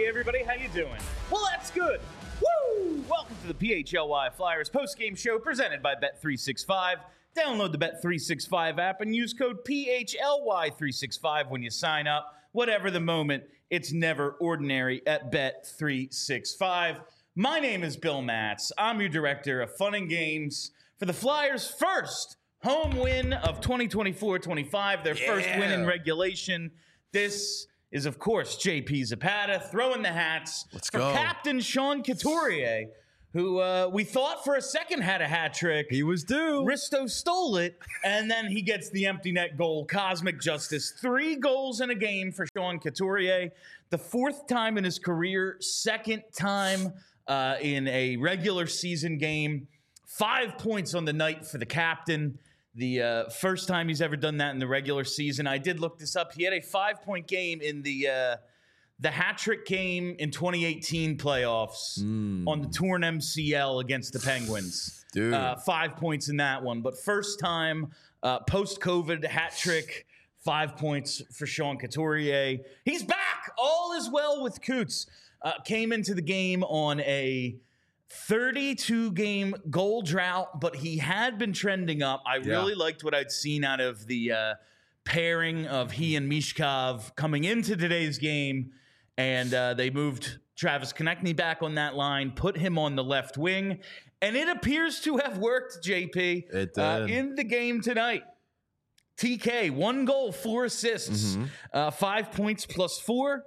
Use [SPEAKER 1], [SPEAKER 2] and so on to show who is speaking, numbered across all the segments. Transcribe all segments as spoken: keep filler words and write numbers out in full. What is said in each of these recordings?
[SPEAKER 1] everybody, how you doing? Well, that's good. Woo! Welcome to the P H L Y Flyers postgame show presented by Bet three sixty-five. Download the Bet three sixty-five app and use code P H L Y three sixty-five when you sign up. Whatever the moment, it's never ordinary at Bet three sixty-five. My name is Bill Matz. I'm your director of fun and games for the Flyers' first home win of twenty twenty-four twenty-five, their yeah. first win in regulation. This is, of course, J P Zapata throwing the hats
[SPEAKER 2] Let's
[SPEAKER 1] for
[SPEAKER 2] go.
[SPEAKER 1] Captain Sean Couturier, who uh, we thought for a second had a hat trick.
[SPEAKER 2] He was due.
[SPEAKER 1] Risto stole it, and then he gets the empty net goal. Cosmic justice. Three goals in a game for Sean Couturier. The fourth time in his career, second time uh, in a regular season game. Five points on the night for the captain. The uh, first time he's ever done that in the regular season. I did look this up. He had a five-point game in the uh, the hat-trick game in twenty eighteen playoffs mm. on the Torn M C L against the Penguins.
[SPEAKER 2] Dude.
[SPEAKER 1] Uh, five points in that one. But first time, uh, post-COVID hat-trick, five points for Sean Couturier. He's back! All is well with Coots. Uh, came into the game on a thirty-two game goal drought, but he had been trending up. I
[SPEAKER 2] yeah.
[SPEAKER 1] really liked what I'd seen out of the uh, pairing of he and Michkov coming into today's game, and uh, they moved Travis Konechny back on that line, put him on the left wing, and it appears to have worked, J P,
[SPEAKER 2] it did.
[SPEAKER 1] Uh, in the game tonight. T K, one goal, four assists, mm-hmm. uh, five points plus four.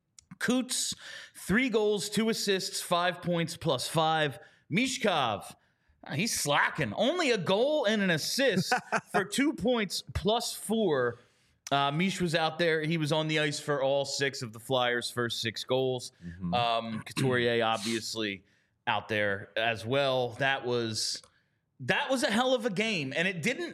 [SPEAKER 1] Coots, three goals, two assists, five points plus five. Michkov, he's slacking. Only a goal and an assist for two points plus four. Uh, Mish was out there. He was on the ice for all six of the Flyers' first six goals. Mm-hmm. Um, Couturier, obviously, out there as well. That was that was a hell of a game, and it didn't.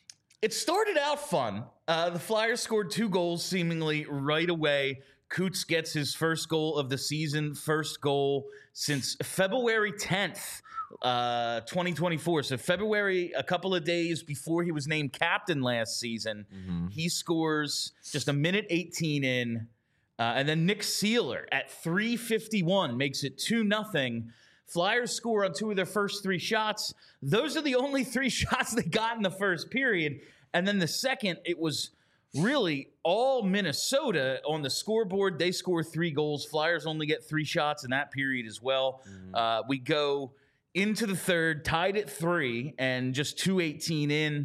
[SPEAKER 1] It started out fun. Uh, the Flyers scored two goals seemingly right away. Coots gets his first goal of the season, first goal since February tenth, uh, twenty twenty-four. So February, a couple of days before he was named captain last season, mm-hmm. he scores just a minute eighteen in. Uh, and then Nick Seeler at three fifty-one makes it two nothing. Flyers score on two of their first three shots. Those are the only three shots they got in the first period. And then the second, it was really all Minnesota on the scoreboard. They score three goals. Flyers only get three shots in that period as well. Mm-hmm. Uh, we go into the third, tied at three, and just two eighteen in.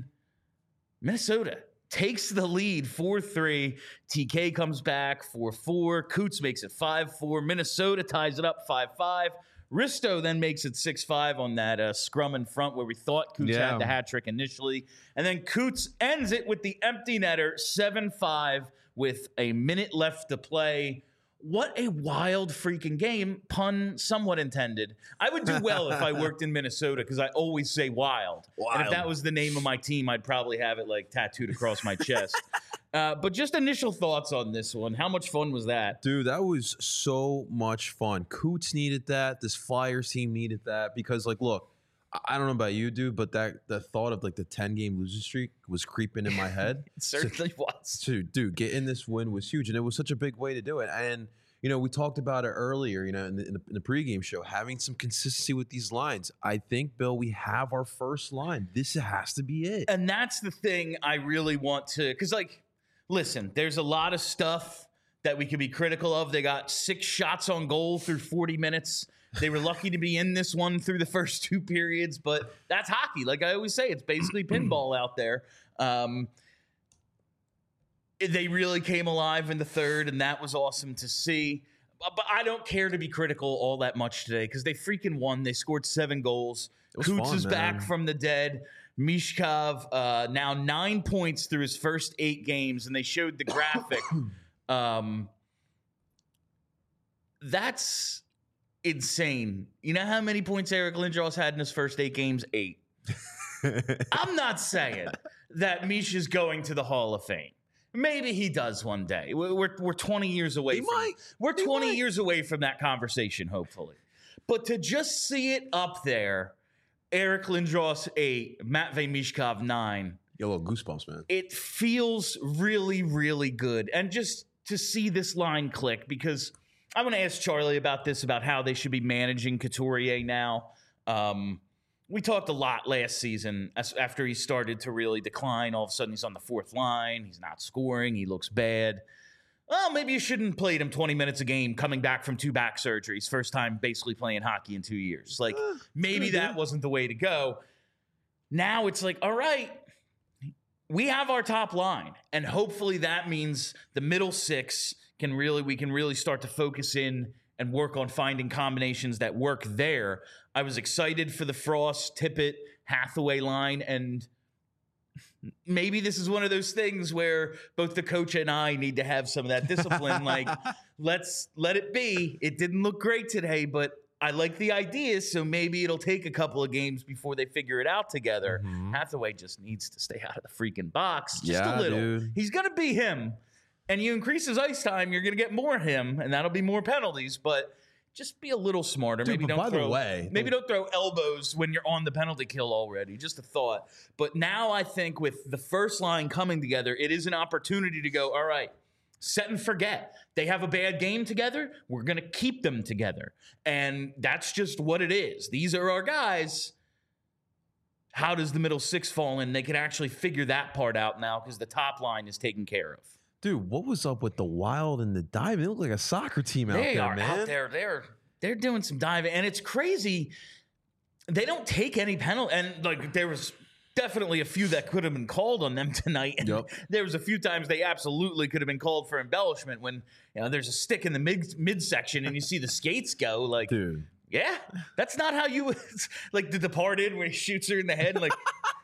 [SPEAKER 1] Minnesota takes the lead four three. T K comes back four four. Coots makes it five four. Minnesota ties it up five five. Risto then makes it six five on that uh, scrum in front where we thought Coots
[SPEAKER 2] yeah.
[SPEAKER 1] had the hat trick initially. And then Coots ends it with the empty netter, seven five, with a minute left to play. What a wild freaking game, pun somewhat intended. I would do well if I worked in Minnesota because I always say wild. wild. And if that was the name of my team, I'd probably have it like tattooed across my chest. Uh, but just initial thoughts on this one. How much fun was that?
[SPEAKER 2] Dude, that was so much fun. Coots needed that. This Flyers team needed that because, like, look, I don't know about you, dude, but that the thought of, like, the ten-game losing streak was creeping in my head.
[SPEAKER 1] It certainly
[SPEAKER 2] so,
[SPEAKER 1] was.
[SPEAKER 2] So, dude, getting this win was huge, and it was such a big way to do it. And, you know, we talked about it earlier, you know, in the, in the, in the pregame show, having some consistency with these lines. I think, Bill, we have our first line. This has to be it.
[SPEAKER 1] And that's the thing I really want to – because, like – listen, there's a lot of stuff that we could be critical of. They got six shots on goal through forty minutes. They were lucky to be in this one through the first two periods, but that's hockey. Like I always say, it's basically pinball out there. Um, they really came alive in the third, and that was awesome to see. But I don't care to be critical all that much today because they freaking won. They scored seven goals. Coots
[SPEAKER 2] fun,
[SPEAKER 1] is
[SPEAKER 2] man.
[SPEAKER 1] back from the dead. Michkov uh, now nine points through his first eight games, and they showed the graphic. um, that's insane. You know how many points Eric Lindros had in his first eight games? Eight. I'm not saying that Mish is going to the Hall of Fame. Maybe he does one day. We're we're twenty years away.
[SPEAKER 2] He
[SPEAKER 1] from,
[SPEAKER 2] might.
[SPEAKER 1] We're
[SPEAKER 2] He
[SPEAKER 1] twenty
[SPEAKER 2] might.
[SPEAKER 1] years away from that conversation, hopefully. But to just see it up there. Eric Lindros eight, Matvei Michkov nine.
[SPEAKER 2] Yo, little goosebumps, man.
[SPEAKER 1] It feels really, really good. And just to see this line click, because I want to ask Charlie about this, about how they should be managing Couturier now. Um, we talked a lot last season as, after he started to really decline. All of a sudden, he's on the fourth line. He's not scoring. He looks bad. Well, maybe you shouldn't have played him twenty minutes a game coming back from two back surgeries. First time basically playing hockey in two years. Like, uh, maybe that wasn't the way to go. Now it's like, all right, we have our top line. And hopefully that means the middle six can really, we can really start to focus in and work on finding combinations that work there. I was excited for the Frost, Tippett, Hathaway line, and maybe this is one of those things where both the coach and I need to have some of that discipline. Like, let's let it be. It didn't look great today, but I like the ideas, so maybe it'll take a couple of games before they figure it out together. Mm-hmm. Hathaway just needs to stay out of the freaking box just
[SPEAKER 2] yeah,
[SPEAKER 1] a little.
[SPEAKER 2] Dude.
[SPEAKER 1] He's going to be him. And you increase his ice time, you're going to get more him, and that'll be more penalties, but just be a little smarter.
[SPEAKER 2] Dude,
[SPEAKER 1] maybe don't
[SPEAKER 2] by
[SPEAKER 1] throw,
[SPEAKER 2] the way,
[SPEAKER 1] maybe don't throw elbows when you're on the penalty kill already. Just a thought. But now I think with the first line coming together, it is an opportunity to go, all right, set and forget. They have a bad game together. We're going to keep them together. And that's just what it is. These are our guys. How does the middle six fall in? They can actually figure that part out now because the top line is taken care of.
[SPEAKER 2] Dude, what was up with the Wild and the dive? They look like a soccer team out
[SPEAKER 1] they
[SPEAKER 2] there,
[SPEAKER 1] are
[SPEAKER 2] man.
[SPEAKER 1] Out there. They're they're doing some diving, and it's crazy. They don't take any penalty, and like there was definitely a few that could have been called on them tonight. And
[SPEAKER 2] yep.
[SPEAKER 1] There was a few times they absolutely could have been called for embellishment when you know there's a stick in the mid midsection and you see the skates go. Like,
[SPEAKER 2] dude,
[SPEAKER 1] yeah, that's not how you like The Departed where he shoots her in the head. Like,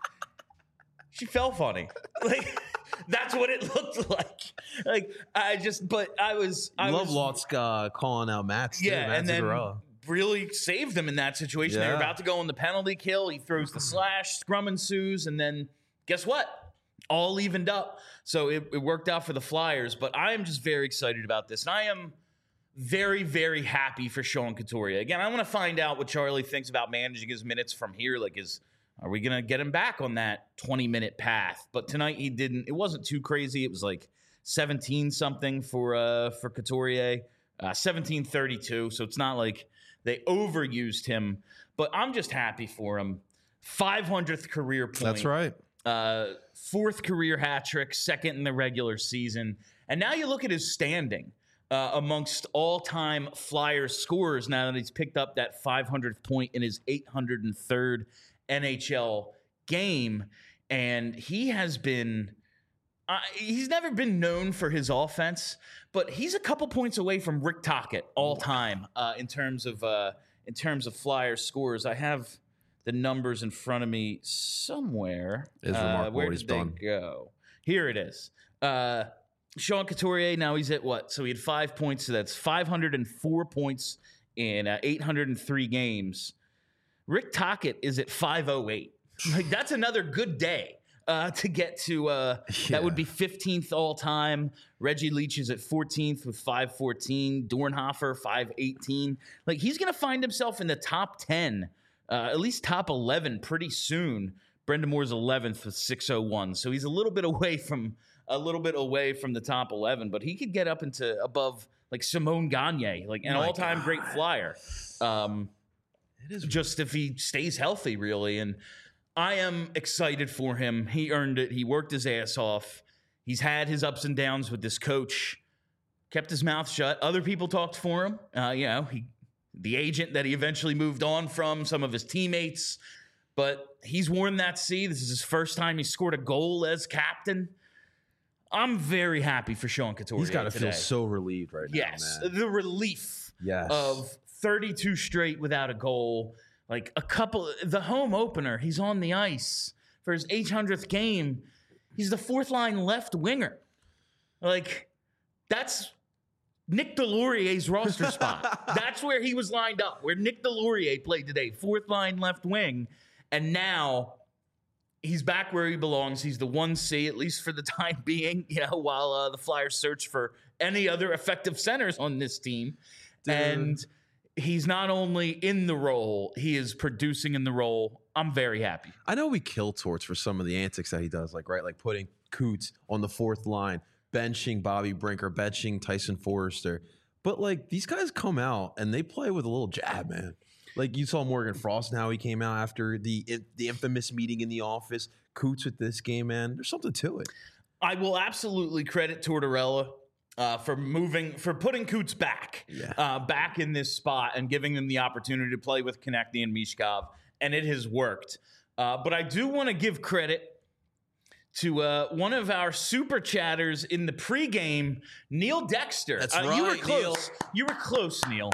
[SPEAKER 1] she fell funny. Like. That's what it looked like. Like I just, but I was. I
[SPEAKER 2] love
[SPEAKER 1] was,
[SPEAKER 2] Lotzka calling out Matt.
[SPEAKER 1] Yeah,
[SPEAKER 2] Matt
[SPEAKER 1] and then
[SPEAKER 2] Zuccarello.
[SPEAKER 1] really saved them in that situation. Yeah. They were about to go on the penalty kill. He throws the slash, scrum ensues, and then guess what? All evened up. So it, it worked out for the Flyers. But I am just very excited about this, and I am very, very happy for Sean Couturier. Again, I want to find out what Charlie thinks about managing his minutes from here. Like his. Are we going to get him back on that twenty-minute path? But tonight he didn't. It wasn't too crazy. It was like seventeen-something for uh, for Couturier, uh, seventeen thirty-two. So it's not like they overused him. But I'm just happy for him. five hundredth career point.
[SPEAKER 2] That's right.
[SPEAKER 1] Uh, fourth career hat trick, second in the regular season. And now you look at his standing uh, amongst all-time Flyers scorers now that he's picked up that five hundredth point in his eight hundred third N H L game, and he has been uh, he's never been known for his offense, but he's a couple points away from Rick Tocchet all time uh, in terms of uh, in terms of Flyers scores. I have the numbers in front of me somewhere.
[SPEAKER 2] It's remarkable
[SPEAKER 1] uh, where
[SPEAKER 2] what
[SPEAKER 1] did
[SPEAKER 2] he's
[SPEAKER 1] they
[SPEAKER 2] done.
[SPEAKER 1] go? Here it is. Uh, Sean Couturier, now he's at what? So he had five points, so that's five hundred four points in uh, eight hundred three games. Rick Tocchet is at five oh eight. Like, that's another good day uh, to get to. Uh, yeah. That would be fifteenth all time. Reggie Leach is at fourteenth with five fourteen. Dornhofer, five eighteen. Like, he's going to find himself in the top ten, uh, at least top eleven pretty soon. Brendan Moore's eleventh with six oh one. So he's a little bit away from a little bit away from the top eleven, but he could get up into above like Simone Gagne, like an
[SPEAKER 2] My
[SPEAKER 1] all-time
[SPEAKER 2] God.
[SPEAKER 1] great Flyer. Um,
[SPEAKER 2] It is
[SPEAKER 1] just if he stays healthy, really. And I am excited for him. He earned it. He worked his ass off. He's had his ups and downs with this coach. Kept his mouth shut. Other people talked for him. Uh, you know, he, the agent that he eventually moved on from, some of his teammates. But he's worn that C. This is his first time he scored a goal as captain. I'm very happy for Sean Couturier.
[SPEAKER 2] He's got to
[SPEAKER 1] today.
[SPEAKER 2] feel so relieved right
[SPEAKER 1] yes,
[SPEAKER 2] now, man.
[SPEAKER 1] the relief
[SPEAKER 2] Yes.
[SPEAKER 1] of thirty-two straight without a goal. Like a couple, the home opener, he's on the ice for his eight hundredth game. He's the fourth line left winger. Like, that's Nick Deslauriers's roster spot. That's where he was lined up, where Nick Deslauriers played today, fourth line left wing. And now he's back where he belongs. He's the one C, at least for the time being, you know, while uh, the Flyers search for any other effective centers on this team. Dude. And he's not only in the role, he is producing in the role. I'm very happy.
[SPEAKER 2] I know we kill Torts for some of the antics that he does, like, right, like putting Coots on the fourth line, benching Bobby Brinker, benching Tyson Forrester. But like these guys come out and they play with a little jab, man. Like you saw Morgan Frost and how he came out after the the infamous meeting in the office. Coots with this game, man. There's something to it.
[SPEAKER 1] I will absolutely credit Tortorella uh, for moving, for putting Coots back,
[SPEAKER 2] Yeah.
[SPEAKER 1] uh, back in this spot and giving them the opportunity to play with Konechny and Mishkov, and it has worked. Uh, but I do want to give credit to uh, one of our super chatters in the pregame, Neil Dexter.
[SPEAKER 2] That's
[SPEAKER 1] uh, You were
[SPEAKER 2] right,
[SPEAKER 1] close.
[SPEAKER 2] Neil.
[SPEAKER 1] You were close, Neil.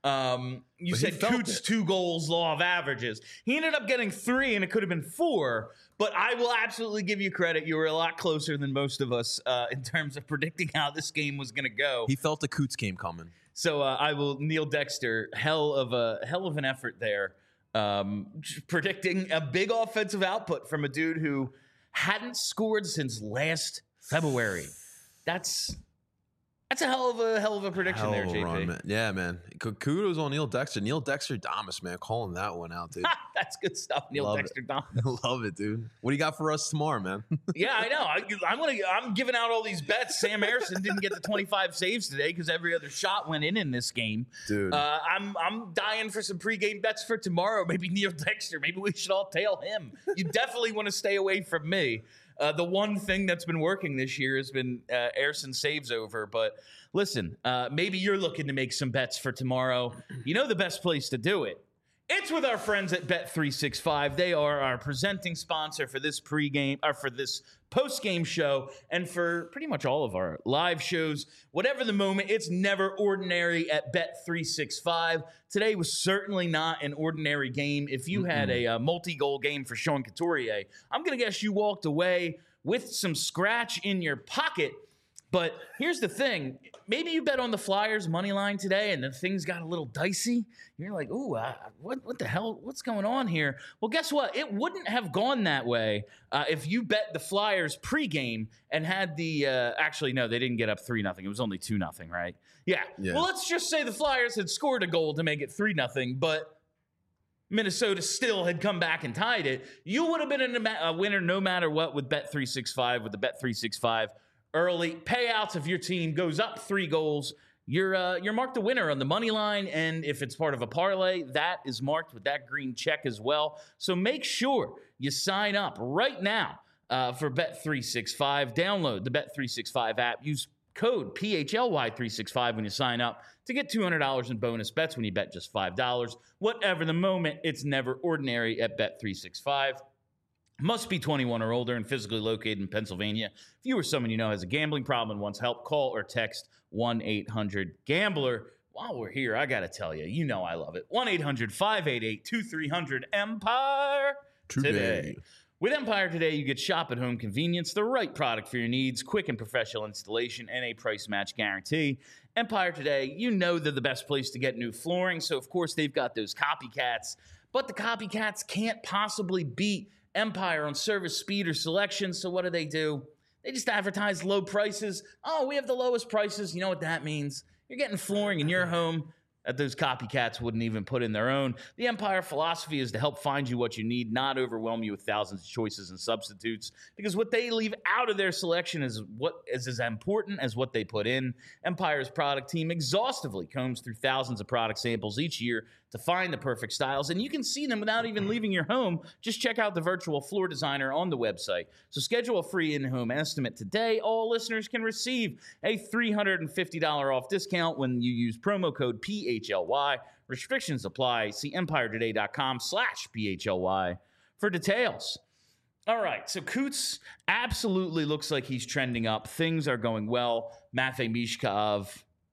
[SPEAKER 1] Um, you
[SPEAKER 2] But he
[SPEAKER 1] said
[SPEAKER 2] felt
[SPEAKER 1] Coots
[SPEAKER 2] it.
[SPEAKER 1] two goals, law of averages. He ended up getting three, and it could have been four. But I will absolutely give you credit. You were a lot closer than most of us uh, in terms of predicting how this game was going to go.
[SPEAKER 2] He felt the Coots game coming.
[SPEAKER 1] So uh, I will Neil Dexter, hell of a hell of an effort there, um, predicting a big offensive output from a dude who hadn't scored since last February. That's that's a hell of a hell of a prediction
[SPEAKER 2] Hell
[SPEAKER 1] there,
[SPEAKER 2] of a
[SPEAKER 1] J P.
[SPEAKER 2] run, man. Yeah, man. K- Kudos on Neil Dexter. Neil Dexter Damas, man. Calling that one out, dude.
[SPEAKER 1] That's good stuff, Neil
[SPEAKER 2] Love
[SPEAKER 1] Dexter. Dom.
[SPEAKER 2] Love it, dude. What do you got for us tomorrow, man?
[SPEAKER 1] Yeah, I know. I, I'm gonna. I'm giving out all these bets. Sam Harrison didn't get the twenty-five saves today because every other shot went in in this game.
[SPEAKER 2] Dude.
[SPEAKER 1] uh, I'm I'm dying for some pregame bets for tomorrow. Maybe Neil Dexter. Maybe we should all tail him. You definitely want to stay away from me. Uh, the one thing that's been working this year has been uh, Harrison saves over. But listen, uh, maybe you're looking to make some bets for tomorrow. You know the best place to do it. It's with our friends at Bet three sixty-five. They are our presenting sponsor for this pregame or for this post-game show and for pretty much all of our live shows. Whatever the moment, it's never ordinary at Bet three sixty-five. Today was certainly not an ordinary game. If you had a, uh multi-goal game for Sean Couturier, I'm going to guess you walked away with some scratch in your pocket. But here's the thing. Maybe you bet on the Flyers money line today and then things got a little dicey. You're like, ooh, uh, what, what the hell? What's going on here? Well, guess what? It wouldn't have gone that way uh, if you bet the Flyers pregame and had the uh, – actually, no, they didn't get up three nothing. It was only two nothing, right? Yeah.
[SPEAKER 2] Yeah.
[SPEAKER 1] Well, let's just say the Flyers had scored a goal to make it three nothing, but Minnesota still had come back and tied it. You would have been in a, a winner no matter what with Bet three sixty-five, with the Bet three sixty-five early payouts. If your team goes up three goals, you're uh, you're marked a winner on the money line, and if it's part of a parlay, that is marked with that green check as well. So make sure you sign up right now uh, for Bet three sixty-five. Download the Bet three sixty-five app. Use code P H L Y three sixty-five when you sign up to get two hundred dollars in bonus bets when you bet just five dollars. Whatever the moment, it's never ordinary at Bet three sixty-five. Must be twenty-one or older and physically located in Pennsylvania. If you or someone you know has a gambling problem and wants help, call or text one eight hundred gambler. While we're here, I got to tell you, you know I love it. one eight hundred five eight eight two three zero zero Empire
[SPEAKER 2] Today.
[SPEAKER 1] today. With Empire Today, you get shop at home convenience, the right product for your needs, quick and professional installation, and a price match guarantee. Empire Today, you know they're the best place to get new flooring, so of course they've got those copycats, but the copycats can't possibly beat Empire on service, speed, or selection. So what do they do? They just advertise low prices. Oh, we have the lowest prices. You know what that means? You're getting flooring in your home that those copycats wouldn't even put in their own. The Empire philosophy is to help find you what you need, not overwhelm you with thousands of choices and substitutes, because what they leave out of their selection is what is as important as what they put in. Empire's product team exhaustively combs through thousands of product samples each year to find the perfect styles, and you can see them without even leaving your home. Just check out the virtual floor designer on the website. So schedule a free in-home estimate today. All listeners can receive a three hundred fifty dollars off discount when you use promo code P H L Y. Restrictions apply. See empiretoday.com slash PHLY for details. All right, so Coots absolutely looks like he's trending up. Things are going well. Matvei Mishkov,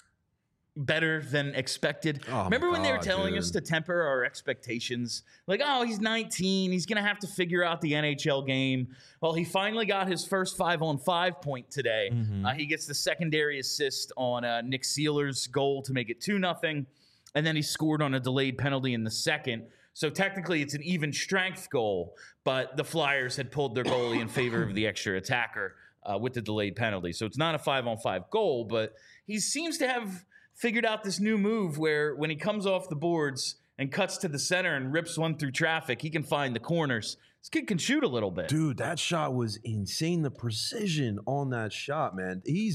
[SPEAKER 1] better than expected.
[SPEAKER 2] Oh,
[SPEAKER 1] Remember when they were
[SPEAKER 2] God,
[SPEAKER 1] telling
[SPEAKER 2] dude.
[SPEAKER 1] us to temper our expectations? Like, oh, he's nineteen. He's going to have to figure out the N H L game. Well, he finally got his first five-on-five point today.
[SPEAKER 2] Mm-hmm.
[SPEAKER 1] Uh, he gets the secondary assist on uh, Nick Seeler's goal to make it two nothing, and then he scored on a delayed penalty in the second. So technically it's an even strength goal, but the Flyers had pulled their goalie in favor of the extra attacker uh, with the delayed penalty. So it's not a five-on-five goal, but he seems to have figured out this new move where when he comes off the boards and cuts to the center and rips one through traffic, he can find the corners. This kid can shoot a little bit.
[SPEAKER 2] Dude, that shot was insane. The precision on that shot, man. He's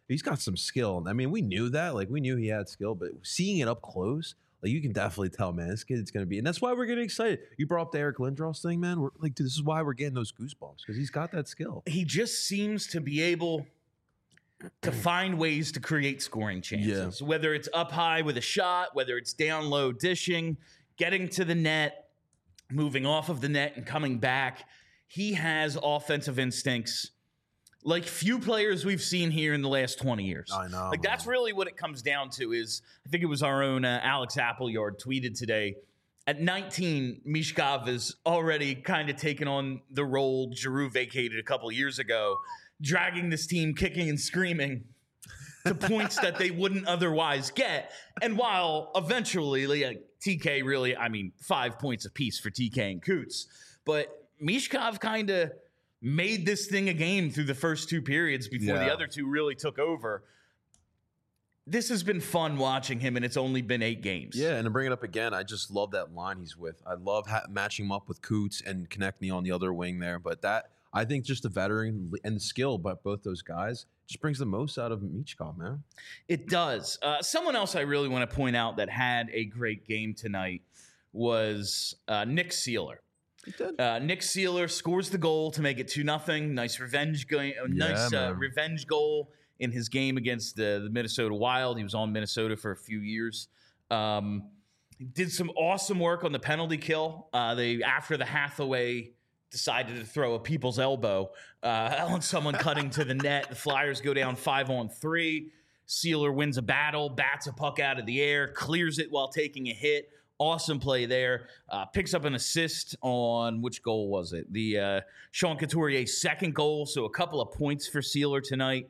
[SPEAKER 2] he's got some skill. I mean, we knew that. Like, we knew he had skill, but seeing it up close, like, you can definitely tell, man, this kid's going to be. And that's why we're getting excited. You brought up the Eric Lindros thing, man. We're like, dude, this is why we're getting those goosebumps, because he's got that skill.
[SPEAKER 1] He just seems to be able to find ways to create scoring chances, yeah. whether it's up high with a shot, whether it's down low dishing, getting to the net, moving off of the net and coming back. He has offensive instincts like few players we've seen here in the last twenty years.
[SPEAKER 2] I know.
[SPEAKER 1] Like, that's really what it comes down to is, I think it was our own uh, Alex Appleyard tweeted today, at nineteen, Mishkov is already kind of taken on the role Giroux vacated a couple years ago, dragging this team kicking and screaming to points that they wouldn't otherwise get. And while eventually, like, T K really, I mean, five points apiece for T K and Coots, but Mishkov kind of made this thing a game through the first two periods before yeah. the other two really took over. This has been fun watching him, and it's only been eight games.
[SPEAKER 2] Yeah, and to bring it up again, I just love that line he's with. I love ha- matching him up with Coots and connecting on the other wing there. But that, I think just the veteran and the skill, but both those guys, just brings the most out of Michkov, man.
[SPEAKER 1] It does. Uh, someone else I really want to point out that had a great game tonight was uh, Nick Seeler. Uh, Nick Seeler scores the goal to make it two nothing. Nice revenge game. Yeah, nice uh, revenge goal in his game against the, the Minnesota Wild. He was on Minnesota for a few years. Um, did some awesome work on the penalty kill. Uh, they after the Hathaway decided to throw a people's elbow uh, on someone cutting to the net. The Flyers go down five on three. Seeler wins a battle, bats a puck out of the air, clears it while taking a hit. Awesome play there. Uh, picks up an assist on, which goal was it? The uh, Sean Couturier's second goal, so a couple of points for Seeler tonight.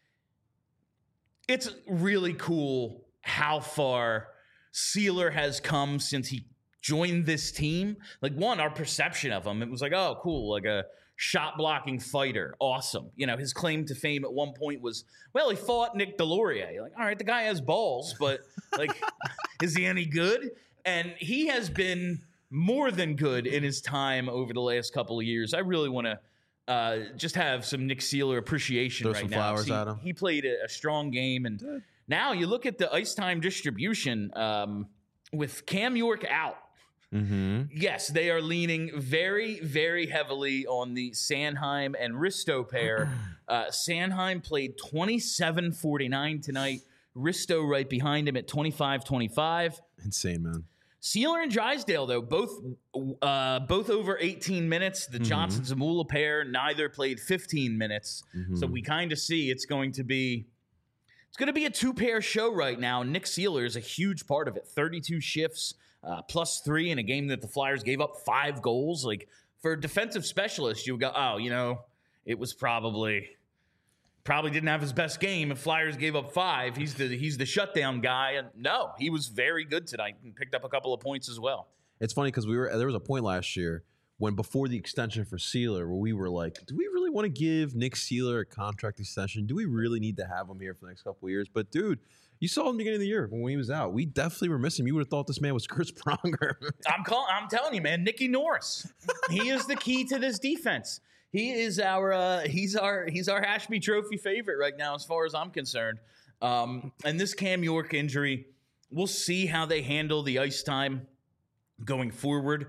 [SPEAKER 1] It's really cool how far Seeler has come since he joined this team. Like, one, our perception of him, it was like, oh, cool, like a shot-blocking fighter. Awesome. You know, his claim to fame at one point was, well, he fought Nick Delorier. You're like, all right, the guy has balls, but, like, is he any good? And he has been more than good in his time over the last couple of years. I really want to uh, just have some Nick Seeler appreciation
[SPEAKER 2] Throw
[SPEAKER 1] right
[SPEAKER 2] some
[SPEAKER 1] now.
[SPEAKER 2] flowers
[SPEAKER 1] he,
[SPEAKER 2] at him.
[SPEAKER 1] He played a, a strong game. And Good. Now you look at the ice time distribution um, with Cam York out.
[SPEAKER 2] Mm-hmm.
[SPEAKER 1] Yes, they are leaning very, very heavily on the Sanheim and Risto pair. Uh, Sanheim played twenty-seven forty-nine tonight. Risto right behind him at twenty-five twenty-five.
[SPEAKER 2] Insane, man.
[SPEAKER 1] Seeler and Drysdale, though, both uh, both over eighteen minutes. The mm-hmm. Johnson-Zamula pair, neither played fifteen minutes. Mm-hmm. So we kind of see it's going to be it's going to be a two-pair show right now. Nick Seeler is a huge part of it. thirty-two shifts, uh, plus three in a game that the Flyers gave up five goals. Like, for a defensive specialist, you would go, oh, you know, it was probably... Probably didn't have his best game. If Flyers gave up five, he's the he's the shutdown guy. And no, he was very good tonight and picked up a couple of points as well.
[SPEAKER 2] It's funny because we were there was a point last year when before the extension for Seeler where we were like, do we really want to give Nick Seeler a contract extension? Do we really need to have him here for the next couple of years? But dude, you saw him at the beginning of the year when he was out. We definitely were missing him. You would have thought this man was Chris Pronger.
[SPEAKER 1] I'm call, I'm telling you, man, Nicky Norris. He is the key to this defense. He is our uh, he's our he's our Ashby Trophy favorite right now, as far as I'm concerned. Um, and this Cam York injury, we'll see how they handle the ice time going forward.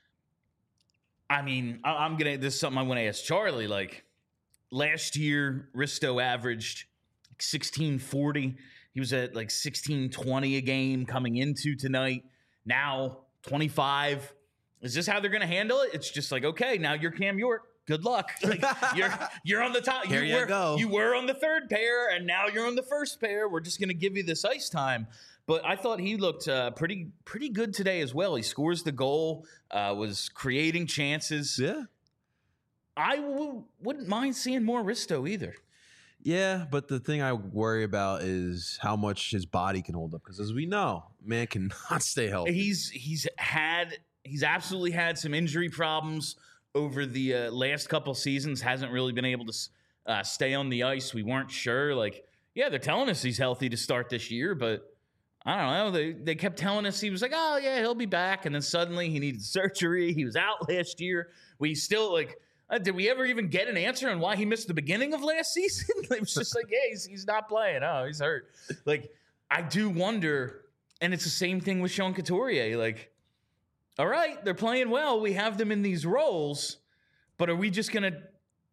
[SPEAKER 1] I mean, I, I'm gonna this is something I want to ask Charlie. Like, last year, Risto averaged sixteen forty. He was at like sixteen twenty a game coming into tonight. Now twenty-five. Is this how they're gonna handle it? It's just like, okay, now you're Cam York. Good luck. Like, you're you're on the top.
[SPEAKER 2] Here
[SPEAKER 1] you,
[SPEAKER 2] you
[SPEAKER 1] were,
[SPEAKER 2] go.
[SPEAKER 1] You were on the third pair, and now you're on the first pair. We're just going to give you this ice time. But I thought he looked uh, pretty pretty good today as well. He scores the goal, uh, was creating chances.
[SPEAKER 2] Yeah.
[SPEAKER 1] I w- wouldn't mind seeing more Risto either.
[SPEAKER 2] Yeah, but the thing I worry about is how much his body can hold up. Because as we know, man cannot stay healthy.
[SPEAKER 1] He's he's had he's absolutely had some injury problems over the uh, last couple seasons. Hasn't really been able to uh, stay on the ice. We weren't sure. Like, yeah, they're telling us he's healthy to start this year, but I don't know. They they kept telling us he was like, oh, yeah, he'll be back. And then suddenly he needed surgery. He was out last year. We still, like, Uh, did we ever even get an answer on why he missed the beginning of last season? It was just like, yeah, he's, he's not playing. Oh, he's hurt. Like, I do wonder, and it's the same thing with Sean Couturier. Like, all right, they're playing well. We have them in these roles, but are we just going to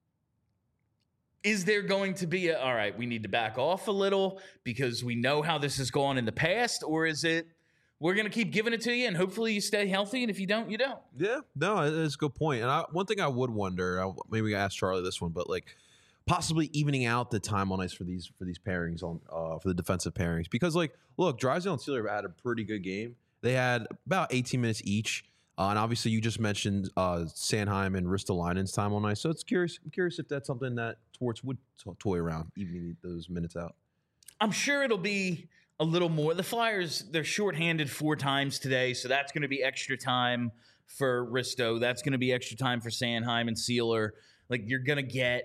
[SPEAKER 1] – is there going to be a, all right, we need to back off a little because we know how this has gone in the past, or is it we're going to keep giving it to you and hopefully you stay healthy, and if you don't, you don't?
[SPEAKER 2] Yeah, no, that's a good point. And I, one thing I would wonder, I, maybe I ask Charlie this one, but like possibly evening out the time on ice for these for these pairings on uh, for the defensive pairings, because like look, Drysdale and Sealer had a pretty good game. They had about eighteen minutes each, uh, and obviously you just mentioned uh, Sanheim and Ristolainen's time on ice. So it's curious. I'm curious if that's something that Torts would to- toy around, evening those minutes out.
[SPEAKER 1] I'm sure it'll be a little more. The Flyers, they're shorthanded four times today, so that's going to be extra time for Risto. That's going to be extra time for Sanheim and Sealer. Like, you're going to get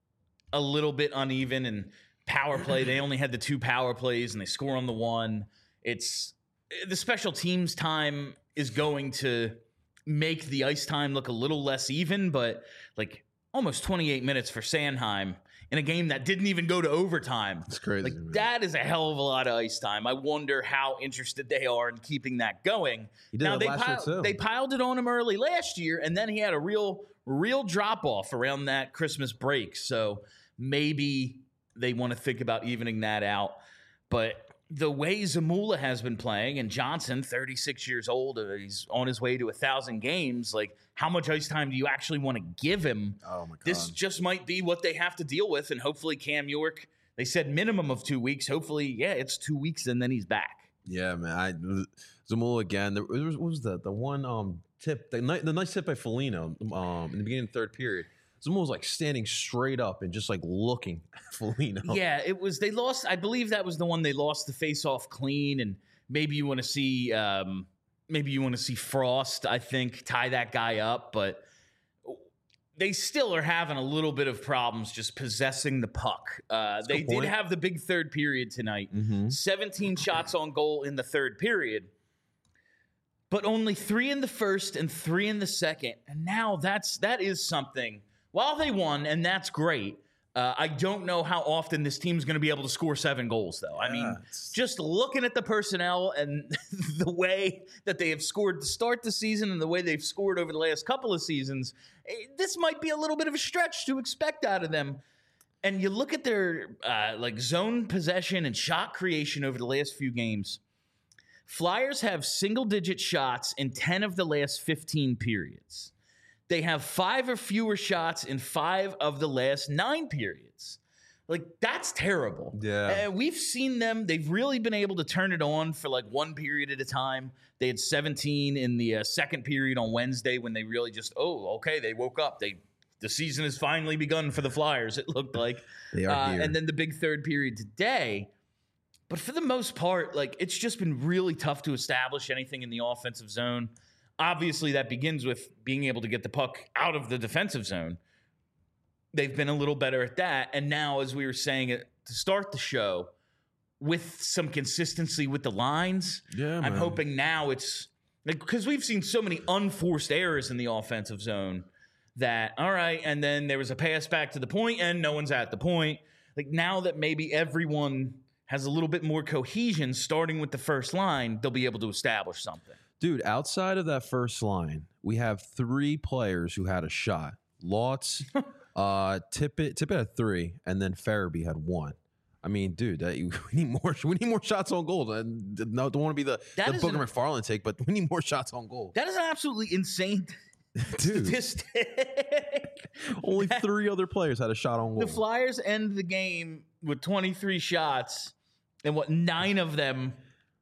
[SPEAKER 1] a little bit uneven, and power play, they only had the two power plays, and they score on the one. It's the special teams time is going to make the ice time look a little less even, but like almost twenty-eight minutes for Sanheim in a game that didn't even go to overtime.
[SPEAKER 2] It's crazy.
[SPEAKER 1] Like,
[SPEAKER 2] man.
[SPEAKER 1] that is a hell of a lot of ice time. I wonder how interested they are in keeping that going.
[SPEAKER 2] He did
[SPEAKER 1] now,
[SPEAKER 2] that
[SPEAKER 1] they,
[SPEAKER 2] last year,
[SPEAKER 1] piled,
[SPEAKER 2] too.
[SPEAKER 1] they piled it on him early last year, and then he had a real, real drop-off around that Christmas break. So maybe they want to think about evening that out. But the way Zamula has been playing, and Johnson, thirty-six years old, uh, he's on his way to one thousand games, like, how much ice time do you actually want to give him?
[SPEAKER 2] Oh, my God.
[SPEAKER 1] This just might be what they have to deal with, and hopefully Cam York, they said minimum of two weeks. Hopefully, yeah, it's two weeks, and then he's back.
[SPEAKER 2] Yeah, man. I, Zamula again. There was, what was that? The one um, tip, the, ni- the nice tip by Foligno um, in the beginning of the third period. Zamula was like standing straight up and just like looking at Foligno.
[SPEAKER 1] Yeah, it was. They lost. I believe that was the one they lost the face-off clean, and maybe you want to see, um, maybe you want to see Frost, I think, tie that guy up, but they still are having a little bit of problems just possessing the puck. Uh, they did have the big third period tonight.
[SPEAKER 2] Mm-hmm.
[SPEAKER 1] seventeen shots on goal in the third period, but only three in the first and three in the second. And now that's that is something. While they won, and that's great, uh, I don't know how often this team's going to be able to score seven goals, though. I mean,
[SPEAKER 2] it's-
[SPEAKER 1] just looking at the personnel and the way that they have scored to start the season and the way they've scored over the last couple of seasons, eh, this might be a little bit of a stretch to expect out of them. And you look at their uh, like zone possession and shot creation over the last few games. Flyers have single-digit shots in ten of the last fifteen periods. They have five or fewer shots in five of the last nine periods. Like, that's terrible.
[SPEAKER 2] Yeah.
[SPEAKER 1] Uh, we've seen them. They've really been able to turn it on for like one period at a time. They had seventeen in the uh, second period on Wednesday when they really just, oh, okay, they woke up. They The season has finally begun for the Flyers, it looked like.
[SPEAKER 2] They are
[SPEAKER 1] uh,
[SPEAKER 2] here.
[SPEAKER 1] And then the big third period today. But for the most part, like, it's just been really tough to establish anything in the offensive zone. Obviously, that begins with being able to get the puck out of the defensive zone. They've been a little better at that. And now, as we were saying it to start the show, with some consistency with the lines,
[SPEAKER 2] Yeah,
[SPEAKER 1] I'm
[SPEAKER 2] man.
[SPEAKER 1] hoping now it's like, because we've seen so many unforced errors in the offensive zone that, all right, and then there was a pass back to the point and no one's at the point. Like, now that maybe everyone has a little bit more cohesion starting with the first line, they'll be able to establish something.
[SPEAKER 2] Dude, outside of that first line, we have three players who had a shot. Lotz, uh, Tippett, Tippett had three, and then Farabee had one. I mean, dude, that, we need more. We need more shots on goal. And no, don't want to be the,
[SPEAKER 1] That
[SPEAKER 2] the
[SPEAKER 1] is
[SPEAKER 2] Booker
[SPEAKER 1] an-
[SPEAKER 2] McFarland take, but we need more shots on goal.
[SPEAKER 1] That is an absolutely insane
[SPEAKER 2] Dude,
[SPEAKER 1] statistic.
[SPEAKER 2] only three other players had a shot on goal.
[SPEAKER 1] The Flyers end the game with twenty-three shots, and what, nine of them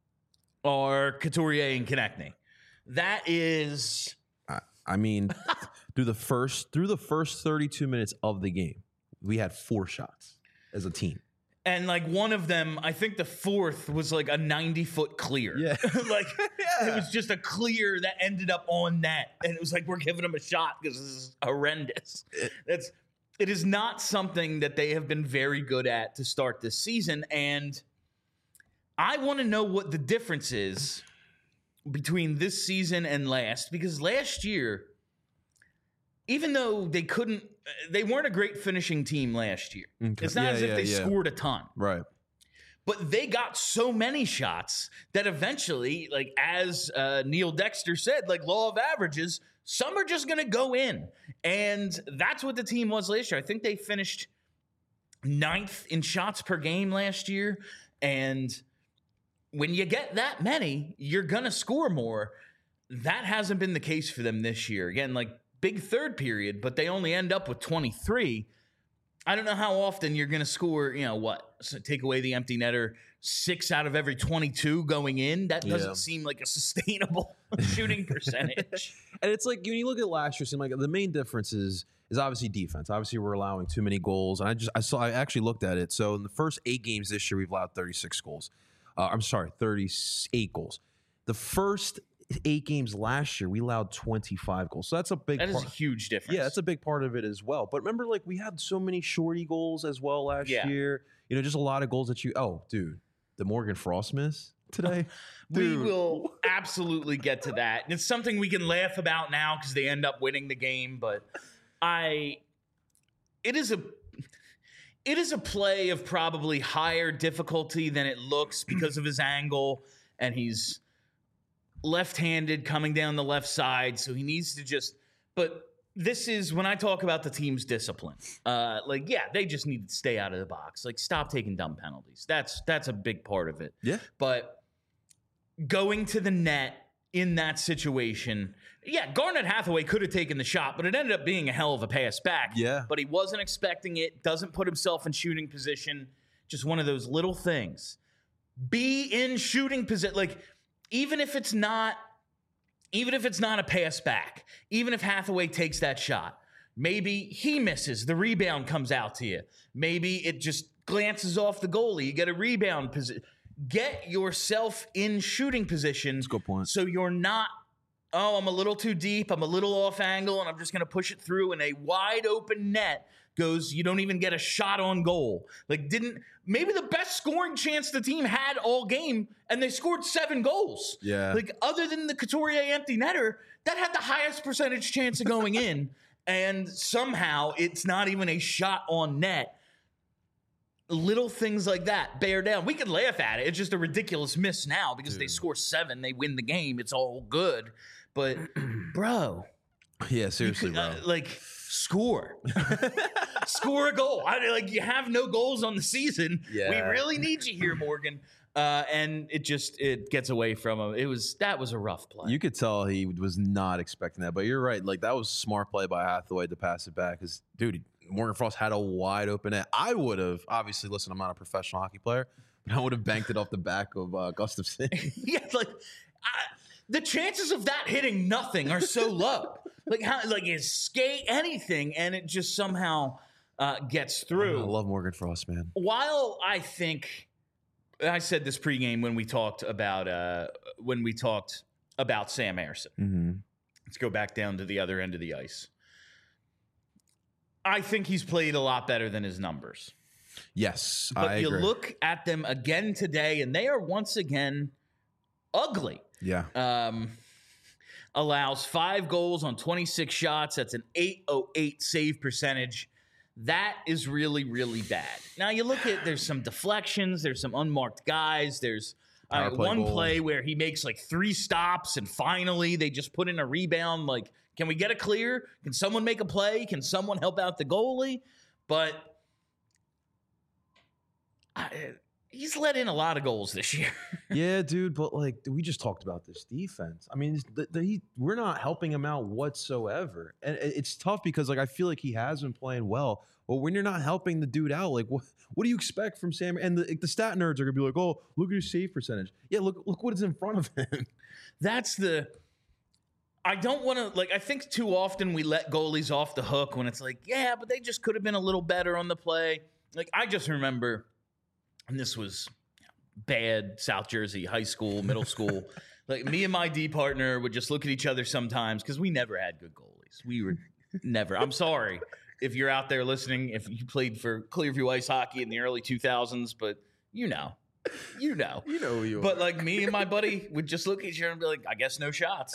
[SPEAKER 1] are Couturier and Konechny. That is,
[SPEAKER 2] I, I mean, through the first through the first thirty-two minutes of the game, we had four shots as a team.
[SPEAKER 1] and like one of them, I think the fourth was like a ninety-foot clear.
[SPEAKER 2] Yeah.
[SPEAKER 1] like it was just a clear that ended up on net, and it was like, we're giving them a shot because this is horrendous. That's it is not something that they have been very good at to start this season, and I want to know what the difference is between this season and last, because last year even though they couldn't, they weren't a great finishing team last year.
[SPEAKER 2] Okay.
[SPEAKER 1] It's not
[SPEAKER 2] Yeah,
[SPEAKER 1] as if
[SPEAKER 2] yeah,
[SPEAKER 1] they
[SPEAKER 2] yeah.
[SPEAKER 1] scored a ton.
[SPEAKER 2] Right.
[SPEAKER 1] But they got so many shots that eventually, like as uh, Neil Dexter said, like law of averages, some are just going to go in. And that's what the team was last year. I think they finished ninth in shots per game last year. And when you get that many, you're going to score more. That hasn't been the case for them this year. Again, like big third period, but they only end up with twenty-three. I don't know how often you're going to score, you know, what? So take away the empty netter, six out of every twenty-two going in. That doesn't
[SPEAKER 2] Yeah.
[SPEAKER 1] seem like a sustainable shooting percentage.
[SPEAKER 2] And it's like when you look at last year, it seemed like the main difference is is obviously defense. Obviously, we're allowing too many goals. And I just I saw I actually looked at it. So in the first eight games this year, we've allowed thirty-six goals. Uh, I'm sorry, thirty-eight goals. The first eight games last year, we allowed twenty-five goals. So that's a big
[SPEAKER 1] That is
[SPEAKER 2] part.
[SPEAKER 1] a huge difference.
[SPEAKER 2] Yeah, that's a big part of it as well. But remember, like, we had so many shorty goals as well last
[SPEAKER 1] Yeah.
[SPEAKER 2] year. You know, just a lot of goals that you. Oh, dude, the Morgan Frost miss today.
[SPEAKER 1] We
[SPEAKER 2] Dude.
[SPEAKER 1] will absolutely get to that. And it's something we can laugh about now because they end up winning the game. But I, it is a, it is a play of probably higher difficulty than it looks because of his angle, and he's left-handed coming down the left side, so he needs to just. But this is when I talk about the team's discipline. Uh, like, yeah, they just need to stay out of the box. Like, stop taking dumb penalties. That's that's a big part of it.
[SPEAKER 2] Yeah.
[SPEAKER 1] But going to the net in that situation, yeah, Garnet Hathaway could have taken the shot, but it ended up being a hell of a pass back.
[SPEAKER 2] Yeah.
[SPEAKER 1] But he wasn't expecting it, doesn't put himself in shooting position. Just one of those little things. Be in shooting position. Like, even if it's not, even if it's not a pass back, even if Hathaway takes that shot, maybe he misses, the rebound comes out to you. Maybe it just glances off the goalie. You get a rebound position. Get yourself in shooting position.
[SPEAKER 2] That's a good point.
[SPEAKER 1] So you're not, oh, I'm a little too deep, I'm a little off angle, and I'm just going to push it through, and a wide open net goes, you don't even get a shot on goal. Like, didn't, maybe the best scoring chance the team had all game, and they scored seven goals.
[SPEAKER 2] Yeah.
[SPEAKER 1] Like, other than the Couturier empty netter, that had the highest percentage chance of going in, and somehow it's not even a shot on net. Little things like that bear down. We can laugh at it. It's just a ridiculous miss now because
[SPEAKER 2] Dude.
[SPEAKER 1] they score seven, they win the game. It's all good. But, bro.
[SPEAKER 2] Yeah, seriously,
[SPEAKER 1] Uh,
[SPEAKER 2] bro.
[SPEAKER 1] like, score. Score a goal. I, like, you have no goals on the season.
[SPEAKER 2] Yeah.
[SPEAKER 1] We really need you here, Morgan. Uh, and it just, it gets away from him. It was, that was a rough play.
[SPEAKER 2] You could tell he was not expecting that, but you're right. Like, that was smart play by Hathaway to pass it back because, dude, Morgan Frost had a wide open net. I would have, obviously, listen, I'm not a professional hockey player, but I would have banked it off the back of uh, Gustafson.
[SPEAKER 1] Yeah, like, I, the chances of that hitting nothing are so low. Like, how, like his skate, anything, and it just somehow uh, gets through.
[SPEAKER 2] I love Morgan Frost, man.
[SPEAKER 1] While I think, I said this pregame when we talked about uh, when we talked about Sam Ersson.
[SPEAKER 2] Mm-hmm.
[SPEAKER 1] Let's go back down to the other end of the ice. I think he's played a lot better than his numbers.
[SPEAKER 2] Yes,
[SPEAKER 1] But
[SPEAKER 2] I
[SPEAKER 1] you
[SPEAKER 2] agree.
[SPEAKER 1] look at them again today, and they are once again ugly.
[SPEAKER 2] Yeah.
[SPEAKER 1] Um, allows five goals on twenty-six shots. That's an eight oh eight save percentage. That is really, really bad. Now you look at, there's some deflections, there's some unmarked guys, there's uh,
[SPEAKER 2] Power play
[SPEAKER 1] one
[SPEAKER 2] goal.
[SPEAKER 1] play where he makes like three stops and finally they just put in a rebound. Like, can we get a clear? Can someone make a play? Can someone help out the goalie? But I, he's let in a lot of goals this year.
[SPEAKER 2] Yeah, dude, but like we just talked about this defense. I mean, the, the, he, we're not helping him out whatsoever, and it- it's tough because like I feel like he has been playing well. But when you're not helping the dude out, like what what do you expect from Sam? And the, the stat nerds are gonna be like, oh, look at his save percentage. Yeah, look look what is in front of him.
[SPEAKER 1] That's the. I don't want to, like, I think too often we let goalies off the hook when it's like, yeah, but they just could have been a little better on the play. Like, I just remember, and this was bad South Jersey high school, middle school. Like, me and my D partner would just look at each other sometimes because we never had good goalies. We were never. I'm sorry if you're out there listening, if you played for Clearview Ice Hockey in the early two thousands, but you know. You know.
[SPEAKER 2] You know who you
[SPEAKER 1] But, like, me and my buddy would just look at each other and be like, I guess no shots.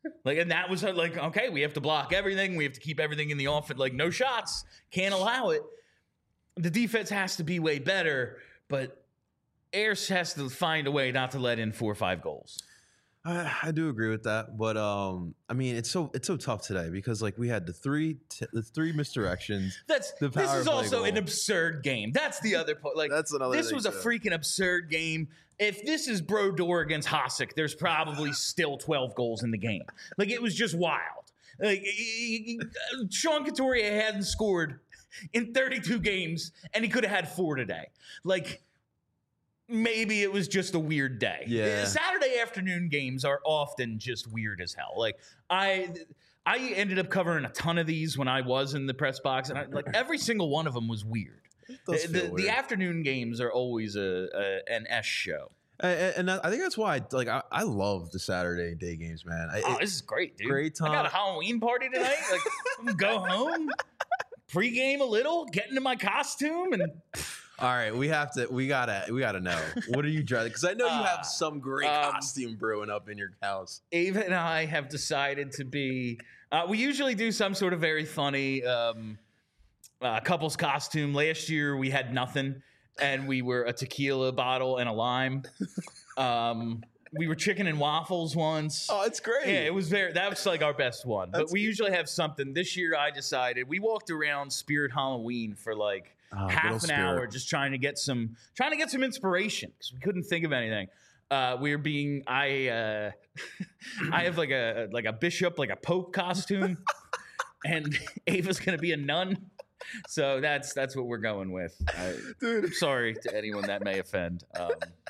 [SPEAKER 1] Like, and that was like, okay, we have to block everything. We have to keep everything in the offense. Like, no shots. Can't allow it. The defense has to be way better, but Ayers has to find a way not to let in four or five goals.
[SPEAKER 2] I, I do agree with that, but um, I mean, it's so it's so tough today because like we had the three t- the three misdirections.
[SPEAKER 1] That's
[SPEAKER 2] the
[SPEAKER 1] this
[SPEAKER 2] power
[SPEAKER 1] is
[SPEAKER 2] play
[SPEAKER 1] also
[SPEAKER 2] goal.
[SPEAKER 1] an absurd game. That's the other point. Like
[SPEAKER 2] That's another
[SPEAKER 1] this
[SPEAKER 2] thing,
[SPEAKER 1] was a
[SPEAKER 2] too.
[SPEAKER 1] freaking absurd game. If this is Brodeur against Hasek, there's probably still twelve goals in the game. Like it was just wild. Like Sean Couturier hadn't scored in thirty-two games, and he could have had four today. Like. Maybe it was just a weird day.
[SPEAKER 2] Yeah.
[SPEAKER 1] Saturday afternoon games are often just weird as hell. Like I, I ended up covering a ton of these when I was in the press box, and I, like every single one of them was weird.
[SPEAKER 2] does
[SPEAKER 1] The,
[SPEAKER 2] feel
[SPEAKER 1] the,
[SPEAKER 2] weird.
[SPEAKER 1] the afternoon games are always a, a an S show.
[SPEAKER 2] And, and I think that's why, like, I, I love the Saturday day games, man. I,
[SPEAKER 1] Oh,
[SPEAKER 2] it-
[SPEAKER 1] this is great, dude.
[SPEAKER 2] great
[SPEAKER 1] I got
[SPEAKER 2] time.
[SPEAKER 1] a Halloween party tonight. Like, I'm gonna go home, pregame a little, get into my costume, and
[SPEAKER 2] all right, we have to, we gotta, we gotta know. What are you driving? Because I know you
[SPEAKER 1] Uh,
[SPEAKER 2] have some great
[SPEAKER 1] um,
[SPEAKER 2] costume brewing up in your house.
[SPEAKER 1] Ava and I have decided to be. Uh, we usually do some sort of very funny um, uh, couples costume. Last year we had nothing, and we were a tequila bottle and a lime. Um, we were chicken and waffles once.
[SPEAKER 2] Oh, it's great.
[SPEAKER 1] Yeah, it was very. That was like our best one. But
[SPEAKER 2] That's
[SPEAKER 1] we usually have something. This year, I decided we walked around Spirit Halloween for like
[SPEAKER 2] Oh, good
[SPEAKER 1] half an
[SPEAKER 2] old Spirit.
[SPEAKER 1] hour, just trying to get some, trying to get some inspiration because we couldn't think of anything. Uh, we were being. I uh, I have like a like a bishop, like a pope costume, and Ava's gonna be a nun. So that's that's what we're going with. I,
[SPEAKER 2] Dude.
[SPEAKER 1] I'm sorry to anyone that may offend. Um,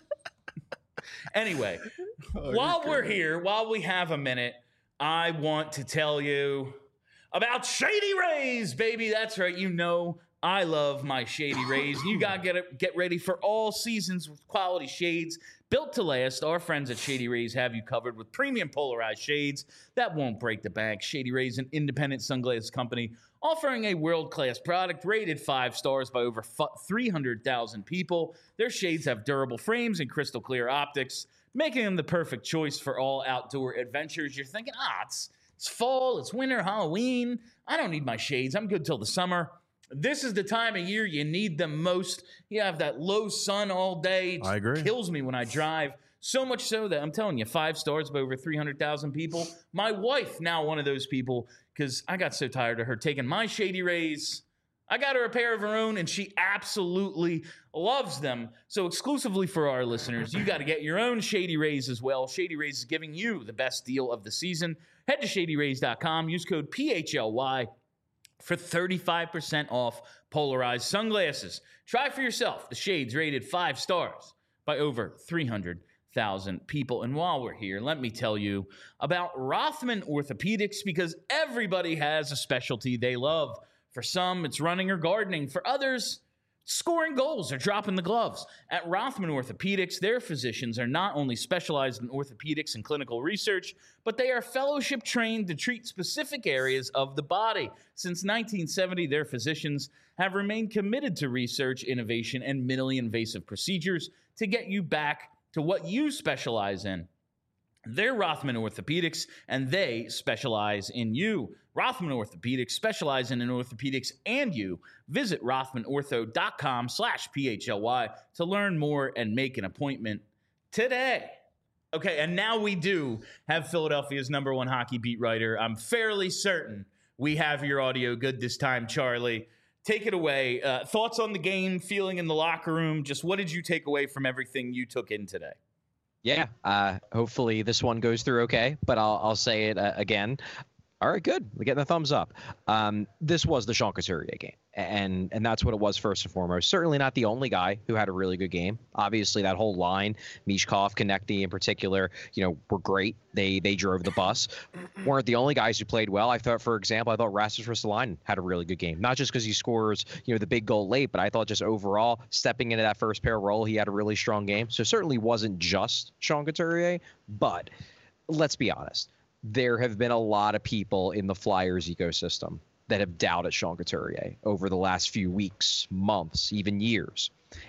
[SPEAKER 1] anyway.
[SPEAKER 2] Oh,
[SPEAKER 1] While
[SPEAKER 2] you're
[SPEAKER 1] we're
[SPEAKER 2] great.
[SPEAKER 1] here, while we have a minute, I want to tell you about Shady Rays, baby. That's right. You know I love my Shady Rays. You got to get it, get ready for all seasons with quality shades built to last. Our friends at Shady Rays have you covered with premium polarized shades that won't break the bank. Shady Rays, an independent sunglasses company offering a world-class product rated five stars by over three hundred thousand people. Their shades have durable frames and crystal clear optics, making them the perfect choice for all outdoor adventures. You're thinking, ah, it's, it's fall, it's winter, Halloween. I don't need my shades. I'm good till the summer. This is the time of year you need them most. You have that low sun all day. It
[SPEAKER 2] I agree.
[SPEAKER 1] kills me when I drive. So much so that I'm telling you, five stars by over three hundred thousand people. My wife, now one of those people, because I got so tired of her taking my Shady Rays. I got her a pair of her own, and she absolutely loves them. So exclusively for our listeners, you got to get your own Shady Rays as well. Shady Rays is giving you the best deal of the season. Head to shady rays dot com. Use code P H L Y for thirty-five percent off polarized sunglasses. Try for yourself the shades rated five stars by over three hundred thousand people. And while we're here, let me tell you about Rothman Orthopedics, because everybody has a specialty they love. For some, it's running or gardening. For others, scoring goals or dropping the gloves. At Rothman Orthopedics, their physicians are not only specialized in orthopedics and clinical research, but they are fellowship trained to treat specific areas of the body. Since nineteen seventy, their physicians have remained committed to research, innovation, and minimally invasive procedures to get you back to what you specialize in. They're Rothman Orthopedics, and they specialize in you. Rothman Orthopedics, specializing in orthopedics and you. Visit rothmanortho.com slash PHLY to learn more and make an appointment today. Okay, and now we do have Philadelphia's number one hockey beat writer. I'm fairly certain we have your audio good this time, Charlie. Take it away. Uh, thoughts on the game, feeling in the locker room. Just what did you take away from everything you took in today?
[SPEAKER 3] Yeah, uh, hopefully this one goes through okay, but I'll, I'll say it uh, again. All right, good. We're getting the thumbs up. Um, this was the Sean Couturier game, and and that's what it was first and foremost. Certainly not the only guy who had a really good game. Obviously, that whole line, Mishkov, Konechny in particular, you know, were great. They they drove the bus. Weren't the only guys who played well. I thought, for example, I thought Rasmus Ristolainen had a really good game. Not just because he scores, you know, the big goal late, but I thought just overall, stepping into that first pair role, he had a really strong game. So certainly wasn't just Sean Couturier, but let's be honest. There have been a lot of people in the Flyers ecosystem that have doubted Sean Couturier over the last few weeks, months, even years.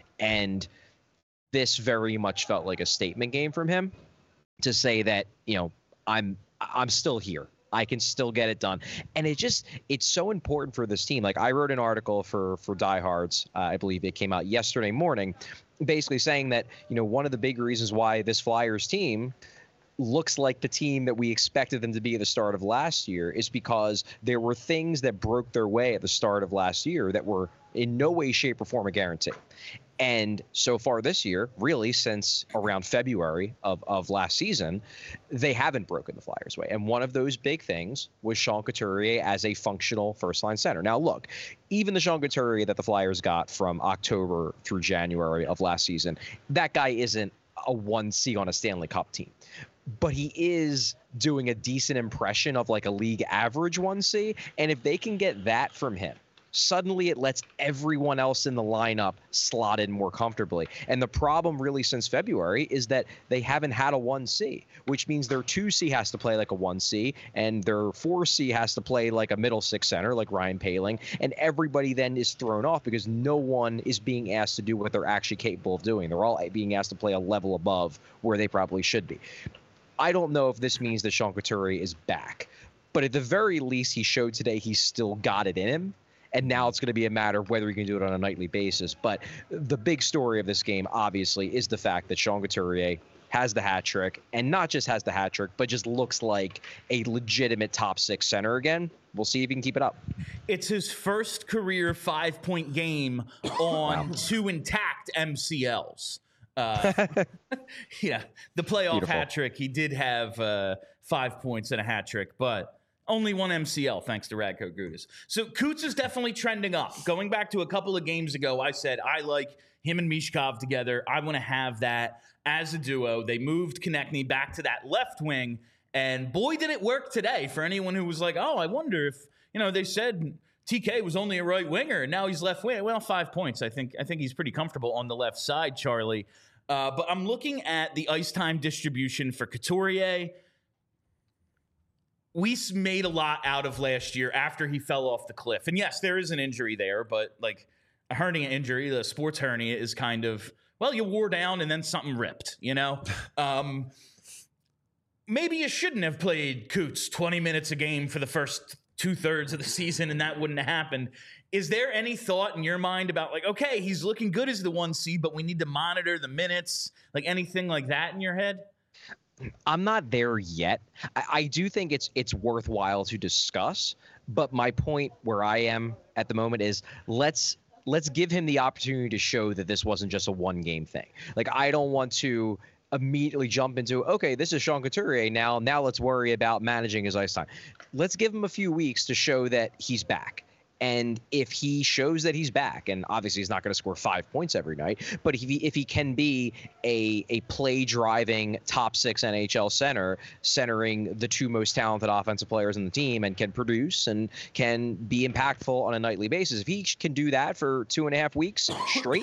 [SPEAKER 3] And this very much felt like a statement game from him to say that, you know, I'm I- I'm still here. I can still get it done. And it just, it's so important for this team. Like I wrote an article for, for Diehards, uh, I believe it came out yesterday morning, basically saying that, you know, one of the big reasons why this Flyers team looks like the team that we expected them to be at the start of last year is because there were things that broke their way at the start of last year that were in no way, shape, or form a guarantee. And so far this year, really since around February of, of last season, they haven't broken the Flyers' way. And one of those big things was Sean Couturier as a functional first-line center. Now, look, even the Sean Couturier that the Flyers got from October through January of last season, that guy isn't a one C on a Stanley Cup team. But he is doing a decent impression of like a league average one C. And if they can get that from him, suddenly it lets everyone else in the lineup slot in more comfortably. And the problem really since February is that they haven't had a one C, which means their two C has to play like a one C and their four C has to play like a middle six center like Ryan Poehling. And everybody then is thrown off because no one is being asked to do what they're actually capable of doing. They're all being asked to play a level above where they probably should be. I don't know if this means that Sean Couturier is back, but at the very least, he showed today he's still got it in him. And now it's going to be a matter of whether he can do it on a nightly basis. But the big story of this game, obviously, is the fact that Sean Couturier has the hat trick, and not just has the hat trick, but just looks like a legitimate top six center again. We'll see if he can keep it up.
[SPEAKER 1] It's his first career five-point game on
[SPEAKER 3] Wow.
[SPEAKER 1] two intact M C Ls. Uh, yeah, the playoff
[SPEAKER 3] Beautiful.
[SPEAKER 1] hat trick. He did have uh, five points and a hat trick, but only one M C L thanks to Radko Gudas. So Coots is definitely trending up. Going back to a couple of games ago, I said I like him and Mishkov together. I want to have that as a duo. They moved Konechny back to that left wing, and boy, did it work today for anyone who was like, oh, I wonder if, you know, they said T K was only a right winger, and now he's left wing. Well, five points. I think I think he's pretty comfortable on the left side, Charlie. Uh, but I'm looking at the ice time distribution for Couturier. We made a lot out of last year after he fell off the cliff. And yes, there is an injury there, but like a hernia injury, the sports hernia is kind of, well, you wore down and then something ripped, you know? um, maybe you shouldn't have played Coots twenty minutes a game for the first two thirds of the season and that wouldn't have happened. Is there any thought in your mind about like, okay, he's looking good as the one C, but we need to monitor the minutes, like anything like that in your head?
[SPEAKER 3] I'm not there yet. I, I do think it's it's worthwhile to discuss, but my point where I am at the moment is let's let's give him the opportunity to show that this wasn't just a one game thing. Like I don't want to immediately jump into, okay, this is Sean Couturier now. Now let's worry about managing his ice time. Let's give him a few weeks to show that he's back. And if he shows that he's back, and obviously he's not going to score five points every night, but if he, if he can be a a play-driving top six N H L center, centering the two most talented offensive players in the team, and can produce and can be impactful on a nightly basis, if he can do that for two and a half weeks straight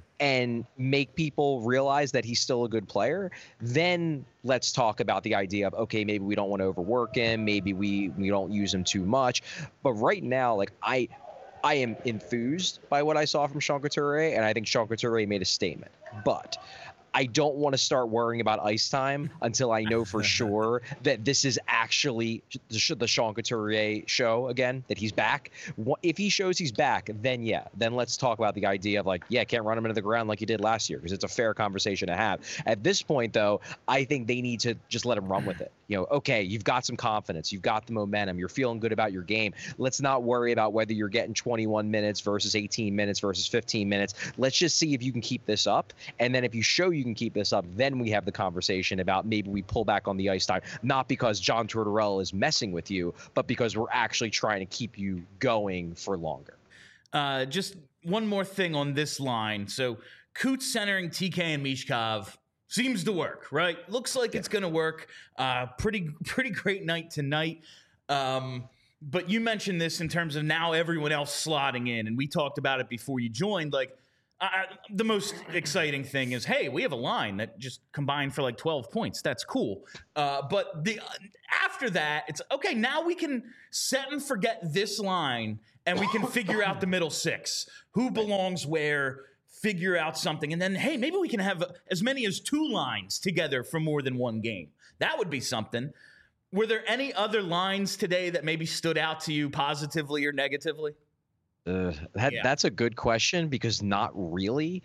[SPEAKER 3] and make people realize that he's still a good player, then let's talk about the idea of, okay, maybe we don't want to overwork him. Maybe we, we don't use him too much. But right now, like I, I am enthused by what I saw from Sean Couturier, and I think Sean Couturier made a statement. But I don't want to start worrying about ice time until I know for sure that this is actually the, the Sean Couturier show again, that he's back. If he shows he's back, then yeah, then let's talk about the idea of like, yeah, can't run him into the ground like you did last year, because it's a fair conversation to have. At this point, though, I think they need to just let him run with it. You know, okay, you've got some confidence, you've got the momentum, you're feeling good about your game. Let's not worry about whether you're getting twenty-one minutes versus eighteen minutes versus fifteen minutes. Let's just see if you can keep this up. And then if you show you can keep this up, then we have the conversation about maybe we pull back on the ice time, not because John Tortorella is messing with you, but because we're actually trying to keep you going for longer.
[SPEAKER 1] Uh, just one more thing on this line. So Coots centering T K and Mishkov seems to work, right? Looks like it's going to work. Uh, pretty, pretty great night tonight. Um, but you mentioned this in terms of now everyone else slotting in, and we talked about it before you joined. Like, uh, the most exciting thing is, hey, we have a line that just combined for like twelve points. That's cool. Uh, but the uh, after that, it's okay. Now we can set and forget this line, and we can figure out the middle six. Who belongs where? Figure out something, and then hey, maybe we can have as many as two lines together for more than one game. That would be something. Were there any other lines today that maybe stood out to you positively or negatively?
[SPEAKER 3] Uh, that
[SPEAKER 1] Yeah.
[SPEAKER 3] That's a good question because not really.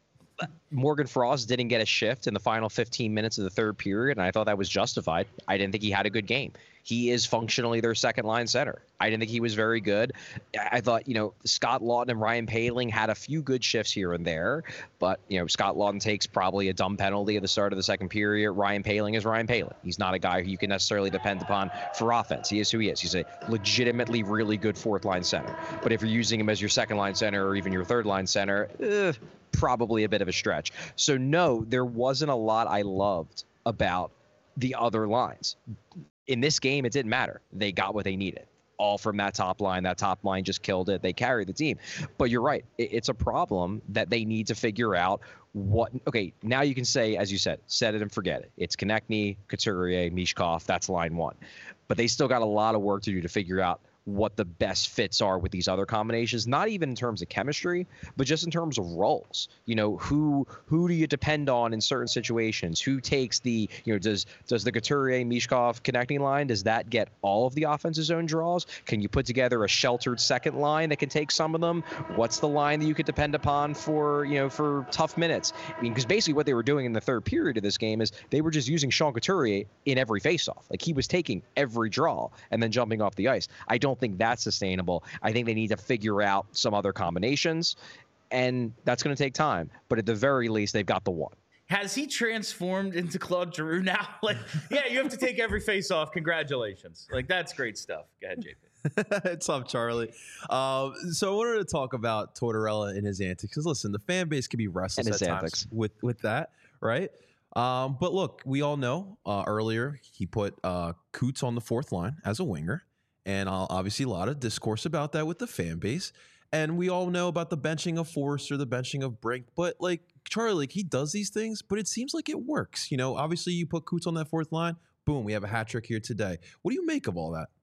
[SPEAKER 3] Morgan Frost didn't get a shift in the final fifteen minutes of the third period, and I thought that was justified. I didn't think he had a good game. He is functionally their second line center. I didn't think he was very good. I thought, you know, Scott Laughton and Ryan Poehling had a few good shifts here and there, but, you know, Scott Laughton takes probably a dumb penalty at the start of the second period. Ryan Poehling is Ryan Poehling. He's not a guy who you can necessarily depend upon for offense. He is who he is. He's a legitimately really good fourth line center. But if you're using him as your second line center or even your third line center, eh, probably a bit of a stretch. So no, there wasn't a lot I loved about the other lines. In this game, it didn't matter. They got what they needed. All from that top line. That top line just killed it. They carried the team. But you're right. It's a problem that they need to figure out what. Okay, now you can say, as you said, set it and forget it. It's Konechny, Couturier, Mishkov. That's line one. But they still got a lot of work to do to figure out what the best fits are with these other combinations, not even in terms of chemistry, but just in terms of roles. You know, who who do you depend on in certain situations? Who takes the, you know, does does the Couturier, Mishkov connecting line, does that get all of the offensive zone draws? Can you put together a sheltered second line that can take some of them? What's the line that you could depend upon for, you know, for tough minutes? I mean, because basically what they were doing in the third period of this game is they were just using Sean Couturier in every faceoff. Like, he was taking every draw and then jumping off the ice. I don't think that's sustainable. I think they need to figure out some other combinations, and that's going to take time. But at the very least, they've got the one.
[SPEAKER 1] Has he transformed into Claude Giroux now? Like, yeah, you have to take every face off. Congratulations. Like, that's great stuff. Go ahead, J P.
[SPEAKER 2] It's up, Charlie. Um, so I wanted to talk about Tortorella and his antics. Because listen, the fan base can be restless
[SPEAKER 3] And
[SPEAKER 2] at
[SPEAKER 3] his
[SPEAKER 2] times
[SPEAKER 3] antics.
[SPEAKER 2] with with that, right? Um, but look, we all know uh, earlier he put uh, Coots on the fourth line as a winger. And uh, obviously a lot of discourse about that with the fan base. And we all know about the benching of Forrester, the benching of Brink. But, like, Charlie, like, he does these things, but it seems like it works. You know, obviously you put Coots on that fourth line, boom, we have a hat trick here today. What do you make of all that?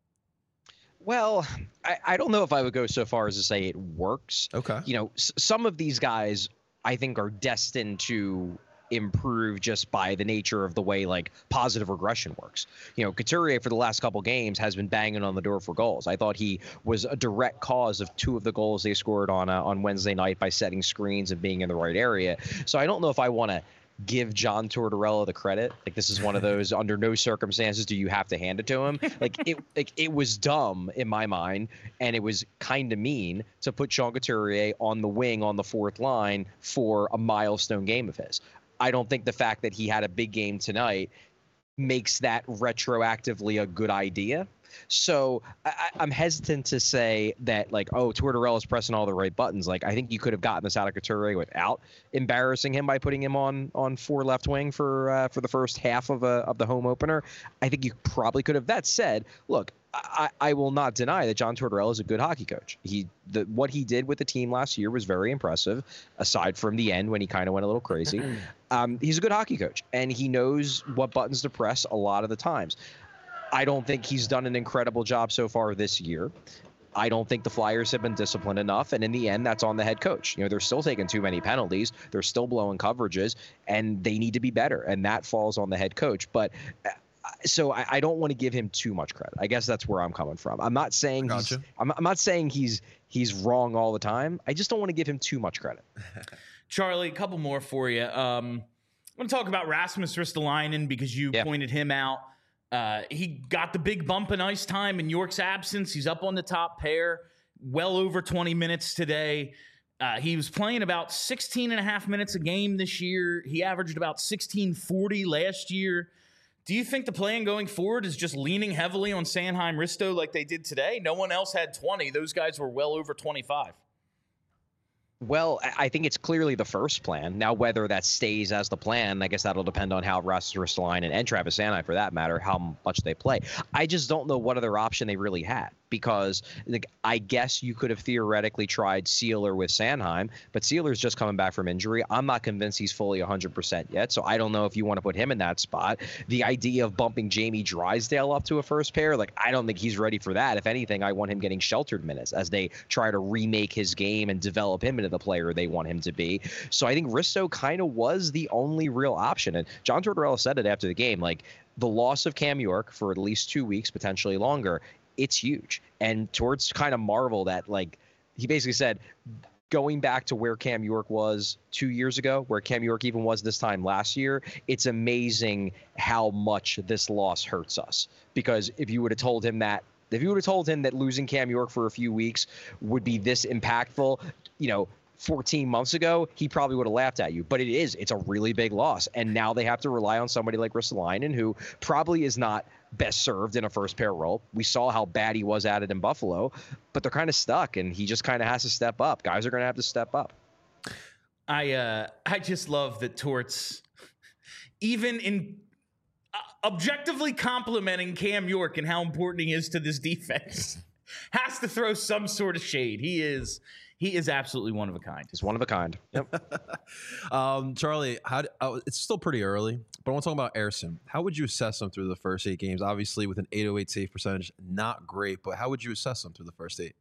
[SPEAKER 3] Well, I, I don't know if I would go so far as to say it works.
[SPEAKER 2] Okay.
[SPEAKER 3] You know, s- some of these guys, I think, are destined to improve just by the nature of the way, like, positive regression works. You know, Couturier for the last couple games has been banging on the door for goals. I thought he was a direct cause of two of the goals they scored on uh, on Wednesday night by setting screens and being in the right area. So I don't know if I want to give John Tortorella the credit. Like, this is one of those, under no circumstances do you have to hand it to him. Like, it like it was dumb in my mind, and it was kind of mean to put Sean Couturier on the wing on the fourth line for a milestone game of his. I don't think the fact that he had a big game tonight makes that retroactively a good idea. So I, I'm hesitant to say that, like, oh, Tortorella's pressing all the right buttons. Like, I think you could have gotten this out of Couturier without embarrassing him by putting him on on four left wing for uh, for the first half of a, of the home opener. I think you probably could have. That said, look, I, I will not deny that John Tortorella is a good hockey coach. He the what he did with the team last year was very impressive, aside from the end when he kind of went a little crazy. Um, he's a good hockey coach, and he knows what buttons to press a lot of the times. I don't think he's done an incredible job so far this year. I don't think the Flyers have been disciplined enough, and in the end, that's on the head coach. You know, they're still taking too many penalties. They're still blowing coverages, and they need to be better, and that falls on the head coach. But uh, so I, I don't want to give him too much credit. I guess that's where I'm coming from. I'm not saying he's,
[SPEAKER 2] Gotcha.
[SPEAKER 3] I'm, I'm not saying he's he's wrong all the time. I just don't want to give him too much credit.
[SPEAKER 1] Charlie, a couple more for you. Um, I want to talk about Rasmus Ristolainen because you
[SPEAKER 3] Yeah.
[SPEAKER 1] pointed him out. Uh, he got the big bump in ice time in York's absence. He's up on the top pair, well over twenty minutes today. Uh, he was playing about sixteen and a half minutes a game this year. He averaged about sixteen forty last year. Do you think the plan going forward is just leaning heavily on Sanheim Risto like they did today? No one else had twenty. Those guys were well over twenty-five.
[SPEAKER 3] Well, I I think it's clearly the first plan. Now, whether that stays as the plan, I guess that'll depend on how Rasmus Ristolainen and Travis Sanheim, for that matter, how much they play. I just don't know what other option they really had, because like, I guess you could have theoretically tried Sealer with Sanheim, but Sealer's just coming back from injury. I'm not convinced he's fully one hundred percent yet, so I don't know if you want to put him in that spot. The idea of bumping Jamie Drysdale up to a first pair, like, I don't think he's ready for that. If anything, I want him getting sheltered minutes as they try to remake his game and develop him into of the player they want him to be. So I think Risto kind of was the only real option. And John Tortorella said it after the game, like, the loss of Cam York for at least two weeks, potentially longer, it's huge. And Torts kind of marveled at, like, he basically said, going back to where Cam York was two years ago, where Cam York even was this time last year, it's amazing how much this loss hurts us. Because if you would have told him that, if you would have told him that losing Cam York for a few weeks would be this impactful, you know, fourteen months ago, he probably would have laughed at you. But it is, it's a really big loss. And now they have to rely on somebody like Ristolainen, who probably is not best served in a first pair role. We saw how bad he was at it in Buffalo, but they're kind of stuck, and he just kind of has to step up. Guys are going to have to step up.
[SPEAKER 1] I uh, I just love that Torts, even in uh, objectively complimenting Cam York and how important he is to this defense, has to throw some sort of shade. He is he is absolutely one of a kind.
[SPEAKER 3] He's one of a kind. Yep.
[SPEAKER 2] um, Charlie, how do, uh, it's still pretty early, but I want to talk about Ersson. How would you assess him through the first eight games? Obviously, with an eight oh eight save percentage, not great, but how would you assess him through the first eight?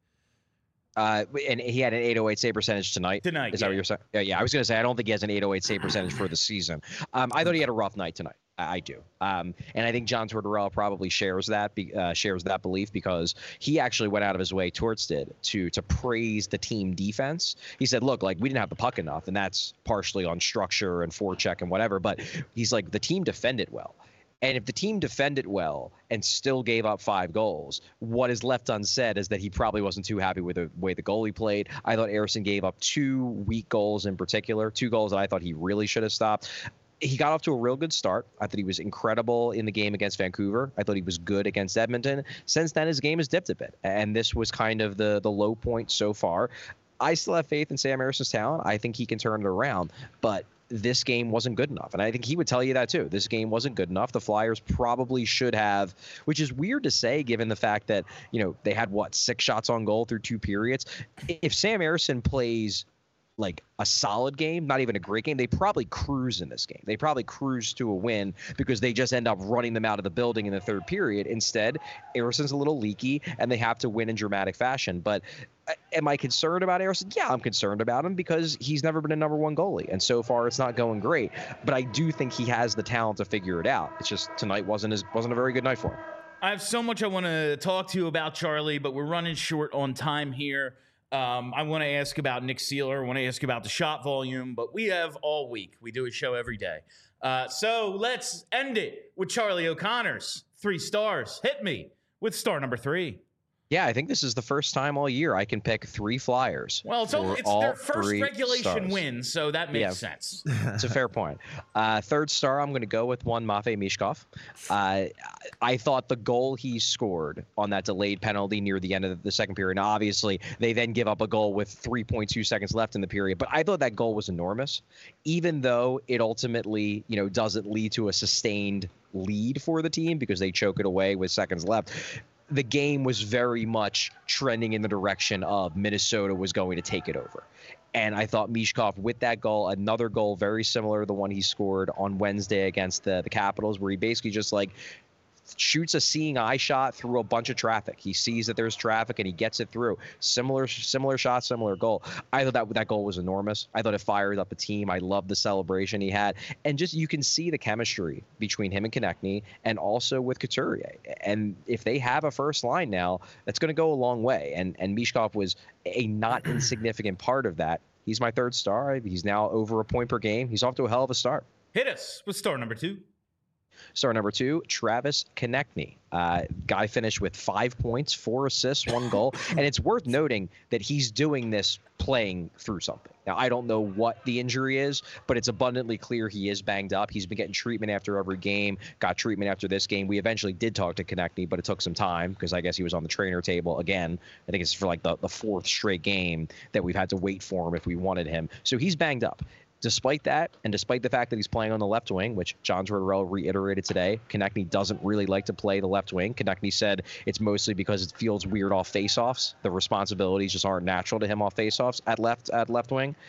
[SPEAKER 3] Uh, and he had an eight oh eight save percentage tonight.
[SPEAKER 1] Tonight,
[SPEAKER 3] is
[SPEAKER 1] yeah.
[SPEAKER 3] that what you're saying? Yeah, yeah. I was going to say I don't think he has an eight oh eight save percentage for the season. Um, I thought he had a rough night tonight. I, I do, um, and I think John Tortorella probably shares that be, uh, shares that belief because he actually went out of his way, Torts did, to to praise the team defense. He said, "Look, like we didn't have the puck enough, and that's partially on structure and forecheck and whatever. But he's like the team defended well." And if the team defended well and still gave up five goals, what is left unsaid is that he probably wasn't too happy with the way the goalie played. I thought Ersson gave up two weak goals in particular, two goals that I thought he really should have stopped. He got off to a real good start. I thought he was incredible in the game against Vancouver. I thought he was good against Edmonton. Since then, his game has dipped a bit, and this was kind of the the low point so far. I still have faith in Sam Ersson's talent. I think he can turn it around, but this game wasn't good enough. And I think he would tell you that too. This game wasn't good enough. The Flyers probably should have, which is weird to say given the fact that, you know, they had what, six shots on goal through two periods. If Sam Ersson plays like a solid game, not even a great game, they probably cruise in this game. They probably cruise to a win because they just end up running them out of the building in the third period. Instead, Ersson's a little leaky and they have to win in dramatic fashion. But am I concerned about Ersson? Yeah, I'm concerned about him because he's never been a number one goalie. And so far it's not going great. But I do think he has the talent to figure it out. It's just tonight wasn't as, wasn't a very good night for him.
[SPEAKER 1] I have so much I want to talk to you about, Charlie, but we're running short on time here. Um, I want to ask about Nick Seeler. I want to ask about the shot volume, but we have all week. We do a show every day. Uh, so let's end it with Charlie O'Connor's three stars. Hit me with star number three.
[SPEAKER 3] Yeah, I think this is the first time all year I can pick three Flyers.
[SPEAKER 1] Well, it's, only, it's their first regulation stars. win, so that makes yeah, sense.
[SPEAKER 3] It's a fair point. Uh, third star, I'm going to go with one Matvei Michkov. Uh, I thought the goal he scored on that delayed penalty near the end of the second period, now obviously they then give up a goal with three point two seconds left in the period, but I thought that goal was enormous, even though it ultimately, you know, doesn't lead to a sustained lead for the team because they choke it away with seconds left. The game was very much trending in the direction of Minnesota was going to take it over. And I thought Michkov with that goal, another goal very similar to the one he scored on Wednesday against the, the Capitals, where he basically just like shoots a seeing eye shot through a bunch of traffic. He sees that there's traffic and he gets it through. Similar similar shot, similar goal. I thought that that goal was enormous. I thought it fired up the team. I loved the celebration he had. And just you can see the chemistry between him and Konechny and also with Couturier. And if they have a first line now, that's going to go a long way. And and Michkov was a not insignificant part of that. He's my third star. He's now over a point per game. He's off to a hell of a start.
[SPEAKER 1] Hit us with star number two.
[SPEAKER 3] Star number two, Travis Konechny. Uh, guy finished with five points, four assists, one goal. And it's worth noting that he's doing this playing through something. Now, I don't know what the injury is, but it's abundantly clear he is banged up. He's been getting treatment after every game, got treatment after this game. We eventually did talk to Konechny, but it took some time because I guess he was on the trainer table again. I think it's for like the, the fourth straight game that we've had to wait for him if we wanted him. So he's banged up. Despite that, and despite the fact that he's playing on the left wing, which John Tortorella reiterated today, Konechny doesn't really like to play the left wing. Konechny said it's mostly because it feels weird off faceoffs. The responsibilities just aren't natural to him off faceoffs at left at left wing.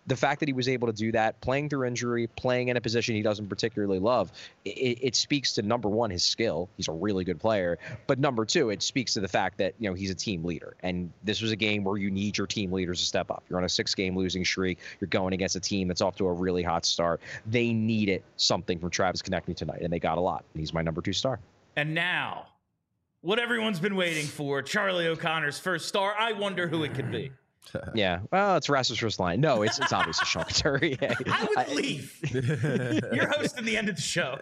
[SPEAKER 3] the fact that he was able to do that, playing through injury, playing in a position he doesn't particularly love, it, it speaks to, number one, his skill. He's a really good player. But number two, it speaks to the fact that, you know, he's a team leader. And this was a game where you need your team leaders to step up. You're on a six-game losing streak. You're going against a team that's off to a really hot start. They needed something from Travis Konechny tonight, and they got a lot. And he's my number two star.
[SPEAKER 1] And now, what everyone's been waiting for, Charlie O'Connor's first star. I wonder who it could be.
[SPEAKER 3] Yeah, well, it's Rasmus Ristolainen. No, it's it's obviously Sean Couturier.
[SPEAKER 1] I would leave. You're hosting the end of the show.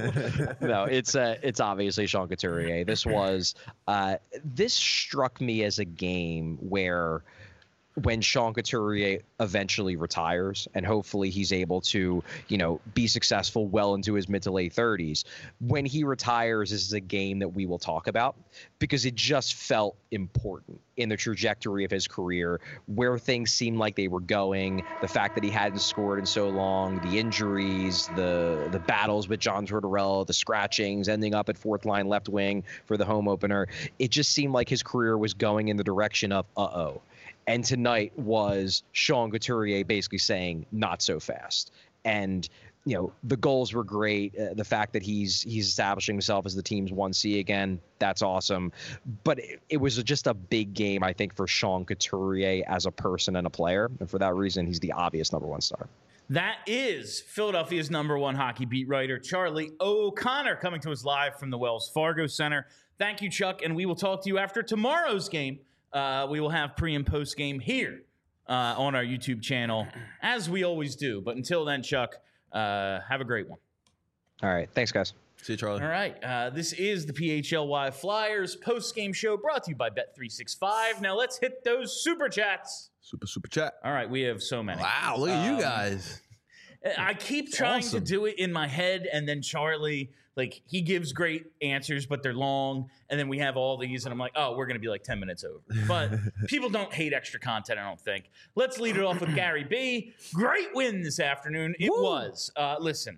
[SPEAKER 3] No, it's uh, it's obviously Sean Couturier. This was uh, this struck me as a game where, when Sean Couturier eventually retires, and hopefully he's able to, you know, be successful well into his mid to late thirties, when he retires, this is a game that we will talk about, because it just felt important in the trajectory of his career, where things seemed like they were going, the fact that he hadn't scored in so long, the injuries, the the battles with John Tortorella, the scratchings, ending up at fourth line left wing for the home opener. It just seemed like his career was going in the direction of uh-oh. And tonight was Sean Couturier basically saying, not so fast. And, you know, the goals were great. Uh, the fact that he's he's establishing himself as the team's one C again, that's awesome. But it, it was just a big game, I think, for Sean Couturier as a person and a player. And for that reason, he's the obvious number one star.
[SPEAKER 1] That is Philadelphia's number one hockey beat writer, Charlie O'Connor, coming to us live from the Wells Fargo Center. Thank you, Chuck. And we will talk to you after tomorrow's game. Uh, we will have pre and post game here uh, on our YouTube channel, as we always do. But until then, Chuck, uh, have a great one.
[SPEAKER 3] All right. Thanks, guys.
[SPEAKER 2] See you, Charlie.
[SPEAKER 1] All right. Uh, this is the P H L Y Flyers post game show brought to you by Bet three sixty-five. Now let's hit those super chats.
[SPEAKER 2] Super, super chat.
[SPEAKER 1] All right. We have so many.
[SPEAKER 2] Wow, look at
[SPEAKER 1] Um,
[SPEAKER 2] you guys.
[SPEAKER 1] I keep trying
[SPEAKER 2] awesome.
[SPEAKER 1] to do it in my head, and then Charlie, like, he gives great answers, but they're long, and then we have all these, and I'm like, oh, we're going to be like ten minutes over. But people don't hate extra content, I don't think. Let's lead it off with Gary B. Great win this afternoon. It
[SPEAKER 2] Woo.
[SPEAKER 1] was. Uh, listen,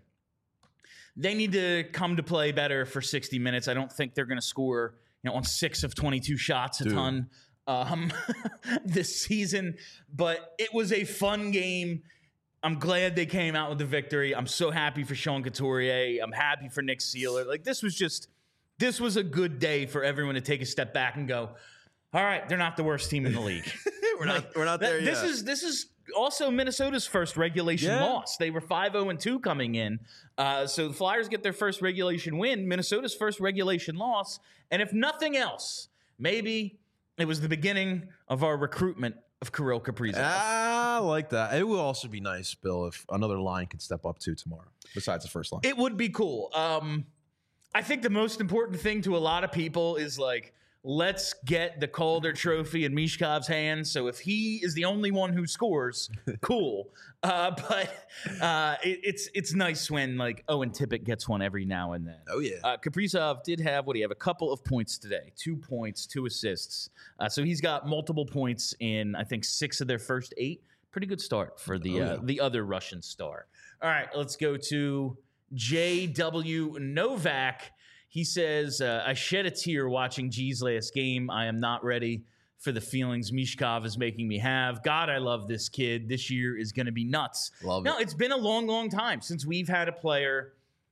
[SPEAKER 1] they need to come to play better for sixty minutes. I don't think they're going to score, you know, on six of twenty-two shots a
[SPEAKER 2] Dude.
[SPEAKER 1] ton um, this season, but it was a fun game. I'm glad they came out with the victory. I'm so happy for Sean Couturier. I'm happy for Nick Seeler. Like, this was just, this was a good day for everyone to take a step back and go, all right, they're not the worst team in the league.
[SPEAKER 2] we're not
[SPEAKER 1] Like,
[SPEAKER 2] we're not
[SPEAKER 1] that-
[SPEAKER 2] there
[SPEAKER 1] this
[SPEAKER 2] yet.
[SPEAKER 1] is this is also Minnesota's first regulation
[SPEAKER 2] Yeah.
[SPEAKER 1] loss. They were five oh and two coming in. Uh, so the Flyers get their first regulation win, Minnesota's first regulation loss. And if nothing else, maybe it was the beginning of our recruitment of Kirill Kaprizov.
[SPEAKER 2] Ah, I like that. It will also be nice, Bill, if another line could step up too tomorrow, besides the first line.
[SPEAKER 1] It would be cool. Um, I think the most important thing to a lot of people is, like, let's get the Calder Trophy in Mishkov's hands. So if he is the only one who scores, cool. Uh, but uh, it, it's it's nice when, like, Owen Tippett gets one every now and then.
[SPEAKER 2] Oh, yeah.
[SPEAKER 1] Uh, Kaprizov did have, what do you have, a couple of points today. Two points, two assists. Uh, so he's got multiple points in, I think, six of their first eight. Pretty good start for the
[SPEAKER 2] Oh,
[SPEAKER 1] uh,
[SPEAKER 2] yeah.
[SPEAKER 1] the other Russian star. All right, let's go to J W Novak. He says, uh, I shed a tear watching G's last game. I am not ready for the feelings Mishkov is making me have. God, I love this kid. This year is going to be nuts.
[SPEAKER 2] Love
[SPEAKER 1] no,
[SPEAKER 2] it.
[SPEAKER 1] it's been a long, long time since we've had a player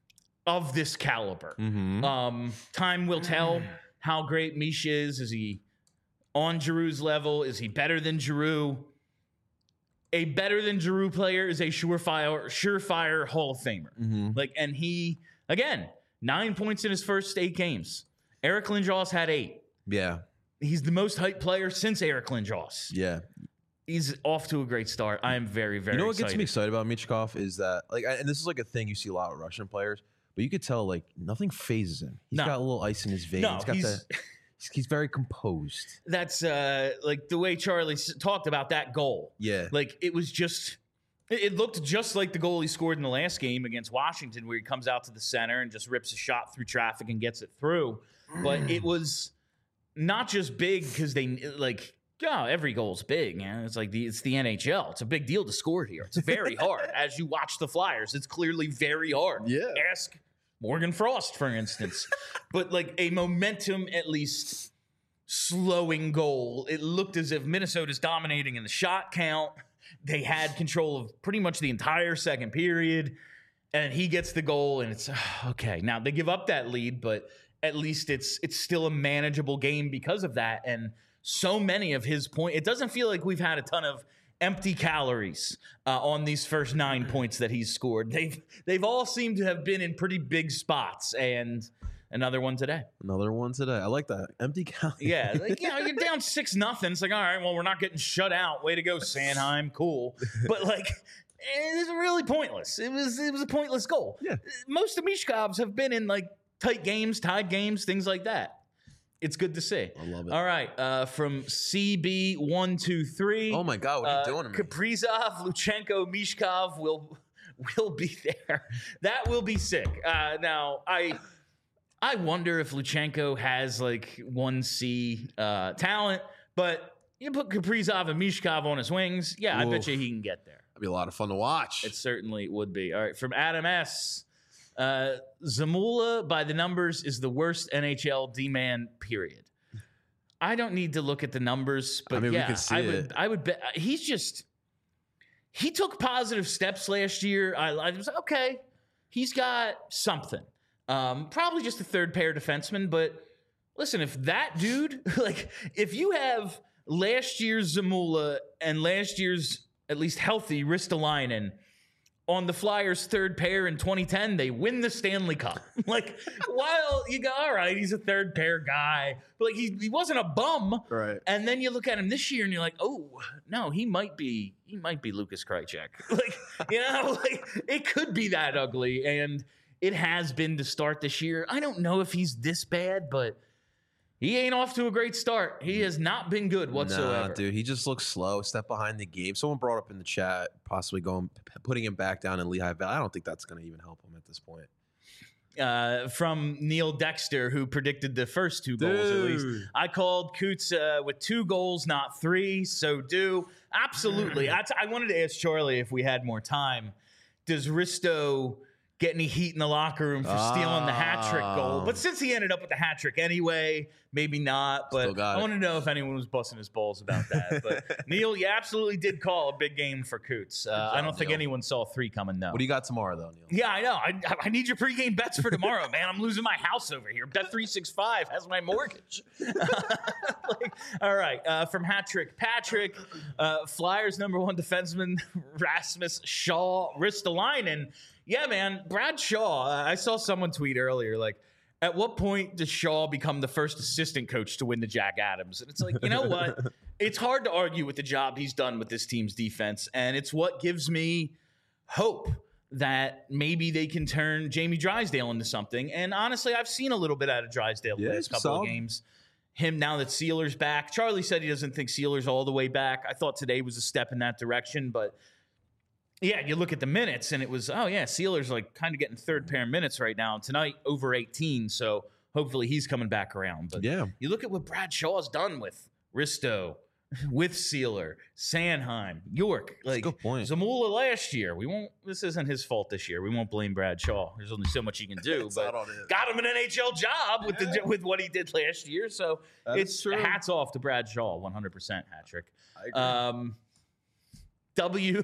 [SPEAKER 1] of this caliber.
[SPEAKER 2] Mm-hmm.
[SPEAKER 1] Um, time will tell how great Mish is. Is he on Giroux's level? Is he better than Giroux? A better than Giroux player is a surefire, surefire Hall of Famer.
[SPEAKER 2] Mm-hmm.
[SPEAKER 1] Like, and he, again, nine points in his first eight games. Eric Lindros had eight.
[SPEAKER 2] Yeah.
[SPEAKER 1] He's the most hyped player since Eric Lindros.
[SPEAKER 2] Yeah.
[SPEAKER 1] He's off to a great start. I am very, very
[SPEAKER 2] You know what
[SPEAKER 1] excited.
[SPEAKER 2] gets me excited about Michkov is that, like, and this is like a thing you see a lot with Russian players, but you could tell, like, nothing phases him. He's
[SPEAKER 1] No.
[SPEAKER 2] got a little ice in his veins.
[SPEAKER 1] No,
[SPEAKER 2] he's got
[SPEAKER 1] he's-
[SPEAKER 2] the, he's, he's very composed.
[SPEAKER 1] That's uh, like the way Charlie s- talked about that goal.
[SPEAKER 2] Yeah.
[SPEAKER 1] Like, it was just, it, it looked just like the goal he scored in the last game against Washington, where he comes out to the center and just rips a shot through traffic and gets it through. But it was not just big because they, like, yeah, every goal's big, man. It's like the it's the N H L. It's a big deal to score here. It's very hard. As you watch the Flyers, it's clearly very hard.
[SPEAKER 2] Yeah.
[SPEAKER 1] Ask Morgan Frost, for instance. But, like, a momentum, at least slowing goal. It looked as if Minnesota's dominating in the shot count. They had control of pretty much the entire second period, and he gets the goal, and it's okay. Now they give up that lead, but at least it's it's still a manageable game because of that. And so many of his points, it doesn't feel like we've had a ton of empty calories uh, on these first nine points that he's scored. They've they've all seemed to have been in pretty big spots, and another one today.
[SPEAKER 2] Another one today. I like that. Empty calories.
[SPEAKER 1] Yeah, like, you know, you're down six nothing. It's like, all right, well, we're not getting shut out. Way to go, Sanheim. Cool, but like, it was really pointless. It was it was a pointless goal.
[SPEAKER 2] Yeah.
[SPEAKER 1] Most of Mishkov's have been in like tight games, tied games, things like that. It's good to see.
[SPEAKER 2] I love it.
[SPEAKER 1] All right, uh, from C B one two three.
[SPEAKER 2] Oh my God, what are you
[SPEAKER 1] uh,
[SPEAKER 2] doing to me?
[SPEAKER 1] Kaprizov, Luchenko, Mishkov will will be there. That will be sick. Uh, now, I I wonder if Luchenko has like one C uh, talent, but you put Kaprizov and Mishkov on his wings. Yeah, I
[SPEAKER 2] Oof.
[SPEAKER 1] bet you he can get there.
[SPEAKER 2] That'd be a lot of fun to watch.
[SPEAKER 1] It certainly would be. All right, from Adam S. Uh, Zamula, by the numbers, is the worst N H L D-man, period. I don't need to look at the numbers, but
[SPEAKER 2] I mean, we
[SPEAKER 1] yeah,
[SPEAKER 2] can see
[SPEAKER 1] I would,
[SPEAKER 2] it.
[SPEAKER 1] I would bet he's just, he took positive steps last year. I, I was like, okay, he's got something. Um, probably just a third pair defenseman, but listen, if that dude, like, if you have last year's Zamula and last year's at least healthy Ristolainen on the Flyers' third pair in twenty ten, they win the Stanley Cup. Like, while you go, all right, he's a third pair guy, but like he, he wasn't a bum.
[SPEAKER 2] Right.
[SPEAKER 1] And then you look at him this year and you're like, oh no, he might be he might be Lucas Krejcik. Like, you know, like it could be that ugly, and it has been to start this year. I don't know if he's this bad, but he ain't off to a great start. He has not been good whatsoever.
[SPEAKER 2] Nah, dude, he just looks slow, step behind the game. Someone brought up in the chat, possibly going, putting him back down in Lehigh Valley. I don't think that's going to even help him at this point.
[SPEAKER 1] Uh, from Neil Dexter, who predicted the first two goals at least. I called Coots uh, with two goals, not three. So do absolutely. I, t- I wanted to ask Charlie if we had more time. Does Risto get any heat in the locker room for stealing the hat trick goal? But since he ended up with the hat trick anyway, maybe not. But I want to know if anyone was busting his balls about that. But Neil, you absolutely did call a big game for Coots. Uh, I don't think
[SPEAKER 2] Neil.
[SPEAKER 1] anyone saw three coming, though.
[SPEAKER 2] What do you got tomorrow, though, Neil?
[SPEAKER 1] Yeah, I know. I, I need your pregame bets for tomorrow, man. I'm losing my house over here. Bet three sixty-five has my mortgage. Like, all right. Uh, from Hat Trick Patrick, uh, Flyers number one defenseman, Rasmus Shaw, Ristolainen. Yeah, man. Brad Shaw, uh, I saw someone tweet earlier, like, at what point does Shaw become the first assistant coach to win the Jack Adams? And it's like, you know what? It's hard to argue with the job he's done with this team's defense, and it's what gives me hope that maybe they can turn Jamie Drysdale into something. And honestly, I've seen a little bit out of Drysdale the
[SPEAKER 2] Yeah,
[SPEAKER 1] last couple
[SPEAKER 2] solid.
[SPEAKER 1] of games. Him now that Sealer's back. Charlie said he doesn't think Sealer's all the way back. I thought today was a step in that direction, but yeah, you look at the minutes and it was, oh yeah, Sealer's like kind of getting third pair minutes right now. Tonight over eighteen, so hopefully he's coming back around. But
[SPEAKER 2] Yeah.
[SPEAKER 1] you look at what Brad Shaw's done with Risto, with Sealer, Sanheim, York, like
[SPEAKER 2] good point.
[SPEAKER 1] Zamula last year. We won't. This isn't his fault this year. We won't blame Brad Shaw. There's only so much he can do.
[SPEAKER 2] It's
[SPEAKER 1] but
[SPEAKER 2] not on him.
[SPEAKER 1] got him an N H L job with the with what he did last year. So
[SPEAKER 2] That is
[SPEAKER 1] it's
[SPEAKER 2] true.
[SPEAKER 1] hats off to Brad Shaw, one hundred percent hat trick.
[SPEAKER 2] I agree.
[SPEAKER 1] Um, W.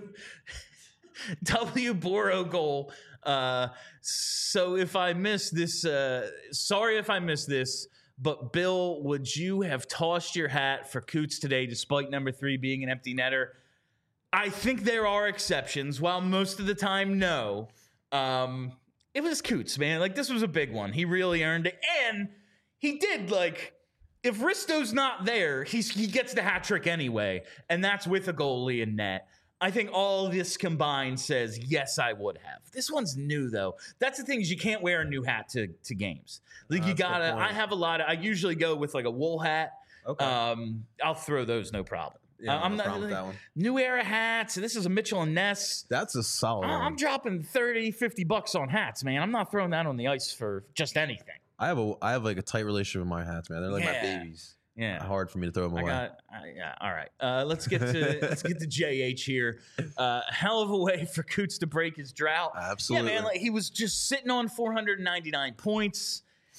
[SPEAKER 1] W Boro goal. Uh, so if I miss this, uh, sorry if I missed this, but Bill, would you have tossed your hat for Coots today, despite number three being an empty netter? I think there are exceptions. While most of the time, no. Um, it was Coots, man. Like, this was a big one. He really earned it, and he did. Like, if Risto's not there, he's he gets the hat trick anyway, and that's with a goalie in net. I think all this combined says, yes, I would have. This one's new, though. That's the thing is you can't wear a new hat to, to games. Like,
[SPEAKER 2] Uh,
[SPEAKER 1] you
[SPEAKER 2] that's a good
[SPEAKER 1] gotta,
[SPEAKER 2] point.
[SPEAKER 1] I have a lot of, I usually go with like a wool hat.
[SPEAKER 2] Okay.
[SPEAKER 1] Um, I'll throw those, no problem.
[SPEAKER 2] Yeah,
[SPEAKER 1] Uh, I'm
[SPEAKER 2] no
[SPEAKER 1] not,
[SPEAKER 2] problem with
[SPEAKER 1] like,
[SPEAKER 2] that one.
[SPEAKER 1] New Era hats. This is a Mitchell and Ness.
[SPEAKER 2] That's a solid
[SPEAKER 1] I-
[SPEAKER 2] one.
[SPEAKER 1] I'm dropping thirty, fifty bucks on hats, man. I'm not throwing that on the ice for just anything.
[SPEAKER 2] I have a I have like a tight relationship with my hats, man. They're like
[SPEAKER 1] Yeah.
[SPEAKER 2] my babies.
[SPEAKER 1] Yeah.
[SPEAKER 2] Hard for me to throw them
[SPEAKER 1] I
[SPEAKER 2] away.
[SPEAKER 1] got, I, yeah, all right. Uh, let's get to let's get to J H here. Uh, hell of a way for Coots to break his drought.
[SPEAKER 2] Absolutely.
[SPEAKER 1] Yeah, man. Like he was just sitting on four hundred ninety-nine points.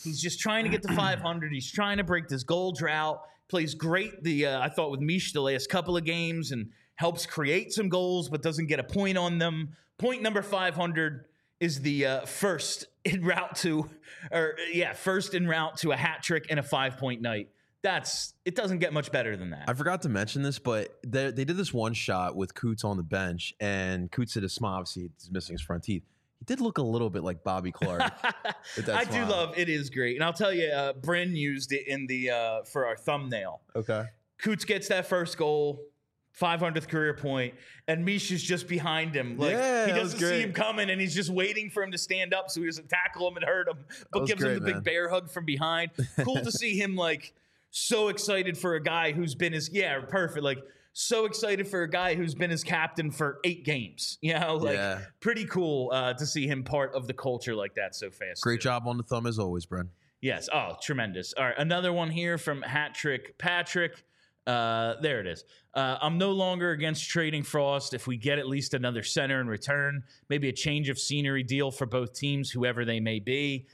[SPEAKER 1] He's just trying to get to five hundred. He's trying to break this goal drought. Plays great, the uh, I thought, with Mish the last couple of games and helps create some goals but doesn't get a point on them. Point number five hundred is the uh, first en route to, or yeah, first en route to a hat trick and a five-point night. That's, it doesn't get much better than that.
[SPEAKER 2] I forgot to mention this, but they, they did this one shot with Coots on the bench, and Coots did a smile. Obviously, he's missing his front teeth. He did look a little bit like Bobby Clark. with that
[SPEAKER 1] I
[SPEAKER 2] smile.
[SPEAKER 1] do love it. Is great. And I'll tell you, uh, Bryn used it in the uh, for our thumbnail.
[SPEAKER 2] Okay.
[SPEAKER 1] Coots gets that first goal, five hundredth career point, and Mish is just behind him. Like,
[SPEAKER 2] Yeah,
[SPEAKER 1] he
[SPEAKER 2] that was
[SPEAKER 1] doesn't see
[SPEAKER 2] great.
[SPEAKER 1] him coming, and he's just waiting for him to stand up so he doesn't tackle him and hurt him, but
[SPEAKER 2] was
[SPEAKER 1] gives him
[SPEAKER 2] great,
[SPEAKER 1] the big
[SPEAKER 2] man.
[SPEAKER 1] bear hug from behind. Cool to see him, like, so excited for a guy who's been his, yeah, perfect, like, so excited for a guy who's been his captain for eight games. You know, like,
[SPEAKER 2] Yeah.
[SPEAKER 1] pretty cool uh, to see him part of the culture like that so fast.
[SPEAKER 2] Great
[SPEAKER 1] too.
[SPEAKER 2] job on the thumb as always, Bren.
[SPEAKER 1] Yes. Oh, tremendous. All right. Another one here from Hat Trick Patrick. Uh, there it is. Uh, I'm no longer against trading Frost if we get at least another center in return. Maybe a change of scenery deal for both teams, whoever they may be.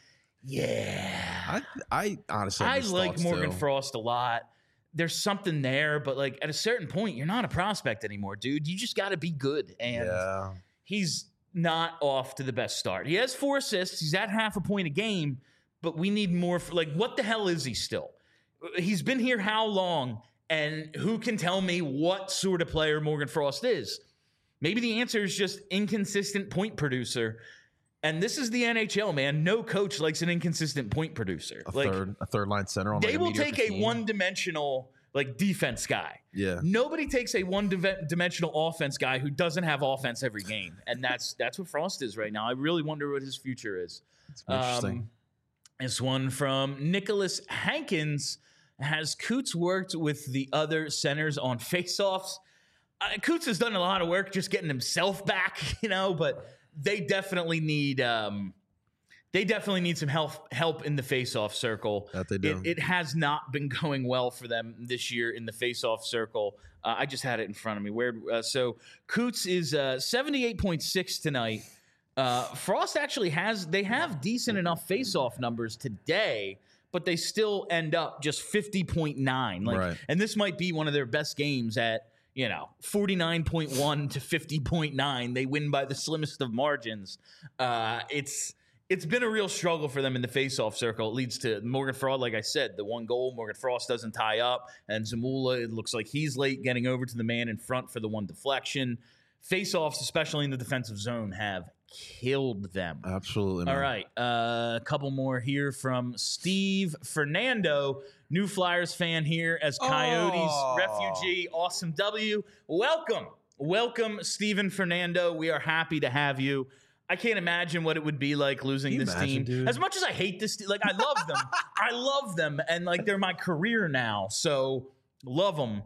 [SPEAKER 1] Yeah.
[SPEAKER 2] I I honestly have
[SPEAKER 1] I
[SPEAKER 2] these
[SPEAKER 1] like
[SPEAKER 2] thoughts,
[SPEAKER 1] Morgan
[SPEAKER 2] too.
[SPEAKER 1] Frost a lot. There's something there, but like at a certain point, you're not a prospect anymore, dude. You just got to be good. And
[SPEAKER 2] Yeah.
[SPEAKER 1] he's not off to the best start. He has four assists. He's at half a point a game, but we need more. For, like, what the hell is he still? He's been here how long? And who can tell me what sort of player Morgan Frost is? Maybe the answer is just inconsistent point producer. And this is the N H L, man. No coach likes an inconsistent point producer.
[SPEAKER 2] A
[SPEAKER 1] like,
[SPEAKER 2] third a third line center on
[SPEAKER 1] they
[SPEAKER 2] like a
[SPEAKER 1] will
[SPEAKER 2] mediocre
[SPEAKER 1] take a
[SPEAKER 2] team.
[SPEAKER 1] one-dimensional like defense guy.
[SPEAKER 2] Yeah.
[SPEAKER 1] Nobody takes a one-dimensional offense guy who doesn't have offense every game, and that's that's what Frost is right now. I really wonder what his future is.
[SPEAKER 2] It's interesting.
[SPEAKER 1] Um, this one from Nicholas Hankins. Has Coots worked with the other centers on faceoffs? Uh, Coots has done a lot of work just getting himself back, you know, but they definitely need um, they definitely need some help help in the faceoff circle.
[SPEAKER 2] That they do.
[SPEAKER 1] It, it has not been going well for them this year in the faceoff circle. Uh, I just had it in front of me. Where uh, so Coots is uh, seventy-eight point six tonight. Uh, Frost actually has they have decent enough faceoff numbers today, but they still end up just fifty point nine. Like,
[SPEAKER 2] Right.
[SPEAKER 1] and this might be one of their best games at, you know, forty-nine point one to fifty point nine. They win by the slimmest of margins. Uh, it's it's been a real struggle for them in the faceoff circle. It leads to Morgan Frost, like I said, the one goal. Morgan Frost doesn't tie up, and Zamula, it looks like he's late getting over to the man in front for the one deflection. Faceoffs, especially in the defensive zone, have killed them.
[SPEAKER 2] Absolutely. Man.
[SPEAKER 1] All right. Uh, a couple more here from Steve Fernando, new Flyers fan here as Coyotes
[SPEAKER 2] Oh.
[SPEAKER 1] refugee. Awesome W. Welcome. Welcome, Steven Fernando. We are happy to have you. I can't imagine what it would be like losing
[SPEAKER 2] Can you
[SPEAKER 1] this
[SPEAKER 2] imagine,
[SPEAKER 1] team.
[SPEAKER 2] dude?
[SPEAKER 1] As much as I hate this team, like I love them. I love them. And like they're my career now. So love them.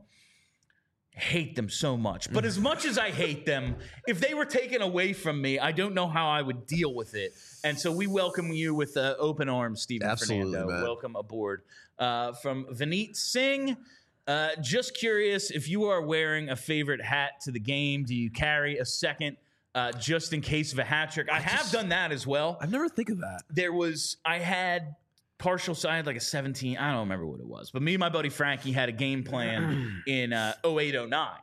[SPEAKER 1] Hate them so much. But as much as I hate them, if they were taken away from me, I don't know how I would deal with it. And so we welcome you with uh, open arms, Stephen
[SPEAKER 2] Absolutely,
[SPEAKER 1] Fernando.
[SPEAKER 2] man.
[SPEAKER 1] Welcome aboard. Uh, from Vineet Singh, uh, just curious if you are wearing a favorite hat to the game. Do you carry a second uh, just in case of a hat trick? I,
[SPEAKER 2] I
[SPEAKER 1] have
[SPEAKER 2] just-
[SPEAKER 1] done that as well.
[SPEAKER 2] I never think of that.
[SPEAKER 1] There was, I had partial side like a seventeen. I don't remember what it was, but me and my buddy Frankie had a game plan in uh, oh eight oh nine,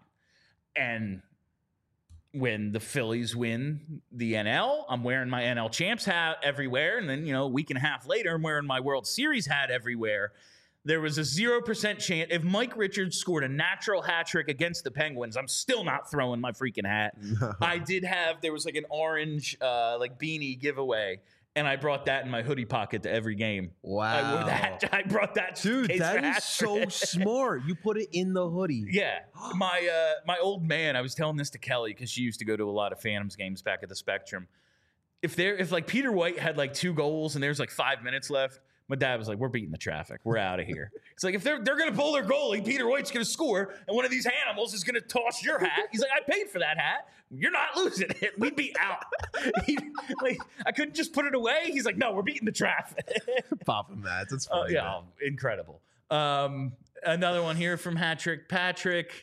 [SPEAKER 1] and when the Phillies win the N L, I'm wearing my N L champs hat everywhere, and then you know a week and a half later, I'm wearing my World Series hat everywhere. There was a zero percent chance if Mike Richards scored a natural hat trick against the Penguins, I'm still not throwing my freaking hat. I did have there was like an orange uh, like beanie giveaway. And I brought that in my hoodie pocket to every game.
[SPEAKER 2] Wow.
[SPEAKER 1] I wore that. I brought that. just in
[SPEAKER 2] Dude,
[SPEAKER 1] case for
[SPEAKER 2] that is
[SPEAKER 1] hat
[SPEAKER 2] so
[SPEAKER 1] trick.
[SPEAKER 2] smart. You put it in the hoodie.
[SPEAKER 1] Yeah, my uh, my old man. I was telling this to Kelly because she used to go to a lot of Phantoms games back at the Spectrum. If there, if like Peter White had like two goals and there's like five minutes left, my dad was like, "We're beating the traffic. We're out of here." It's like if they're they're gonna pull their goalie, Peter White's gonna score, and one of these animals is gonna toss your hat. He's like, "I paid for that hat. You're not losing it. We'd be out." He, like I couldn't just put it away. He's like, "No, we're beating the traffic."
[SPEAKER 2] Popping that. That's
[SPEAKER 1] Oh
[SPEAKER 2] funny.
[SPEAKER 1] yeah,
[SPEAKER 2] man.
[SPEAKER 1] incredible. Um, another one here from Hat Trick Patrick.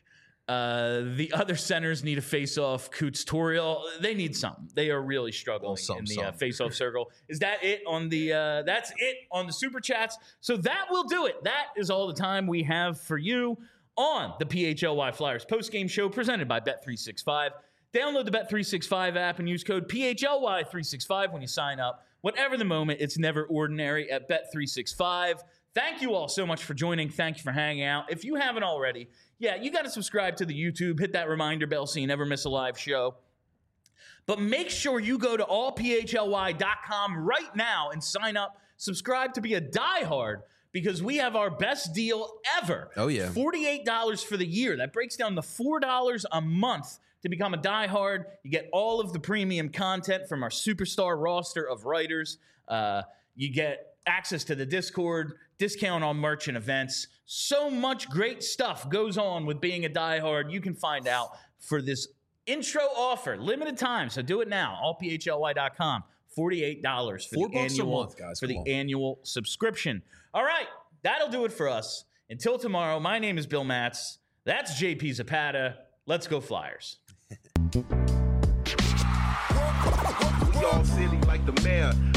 [SPEAKER 1] Uh, the other centers need a face-off. Coots, Toriel, they need something. They are really struggling
[SPEAKER 2] Well, some,
[SPEAKER 1] in the
[SPEAKER 2] some.
[SPEAKER 1] uh, face-off circle. Is that it on the? Uh, that's it on the super chats. So that will do it. That is all the time we have for you on the P H L Y Flyers postgame show presented by Bet three sixty-five. Download the Bet three sixty-five app and use code P H L Y three sixty-five when you sign up. Whatever the moment, it's never ordinary at Bet three sixty-five. Thank you all so much for joining. Thank you for hanging out. If you haven't already, yeah, you got to subscribe to the YouTube. Hit that reminder bell so you never miss a live show. But make sure you go to all P H L Y dot com right now and sign up. Subscribe to be a diehard because we have our best deal ever.
[SPEAKER 2] Oh, yeah.
[SPEAKER 1] forty-eight dollars for the year. That breaks down to four dollars a month to become a diehard. You get all of the premium content from our superstar roster of writers. Uh, you get access to the Discord, discount on merch and events. So much great stuff goes on with being a diehard. You can find out for this intro offer, limited time. So do it now. all P H L Y dot com. forty-eight dollars for
[SPEAKER 2] Four
[SPEAKER 1] the
[SPEAKER 2] bucks a
[SPEAKER 1] annual
[SPEAKER 2] month, guys.
[SPEAKER 1] for
[SPEAKER 2] Come
[SPEAKER 1] the
[SPEAKER 2] on.
[SPEAKER 1] annual subscription. All right, that'll do it for us. Until tomorrow, my name is Bill Matz. That's J P Zapata. Let's go Flyers.
[SPEAKER 4] We all silly like the mayor.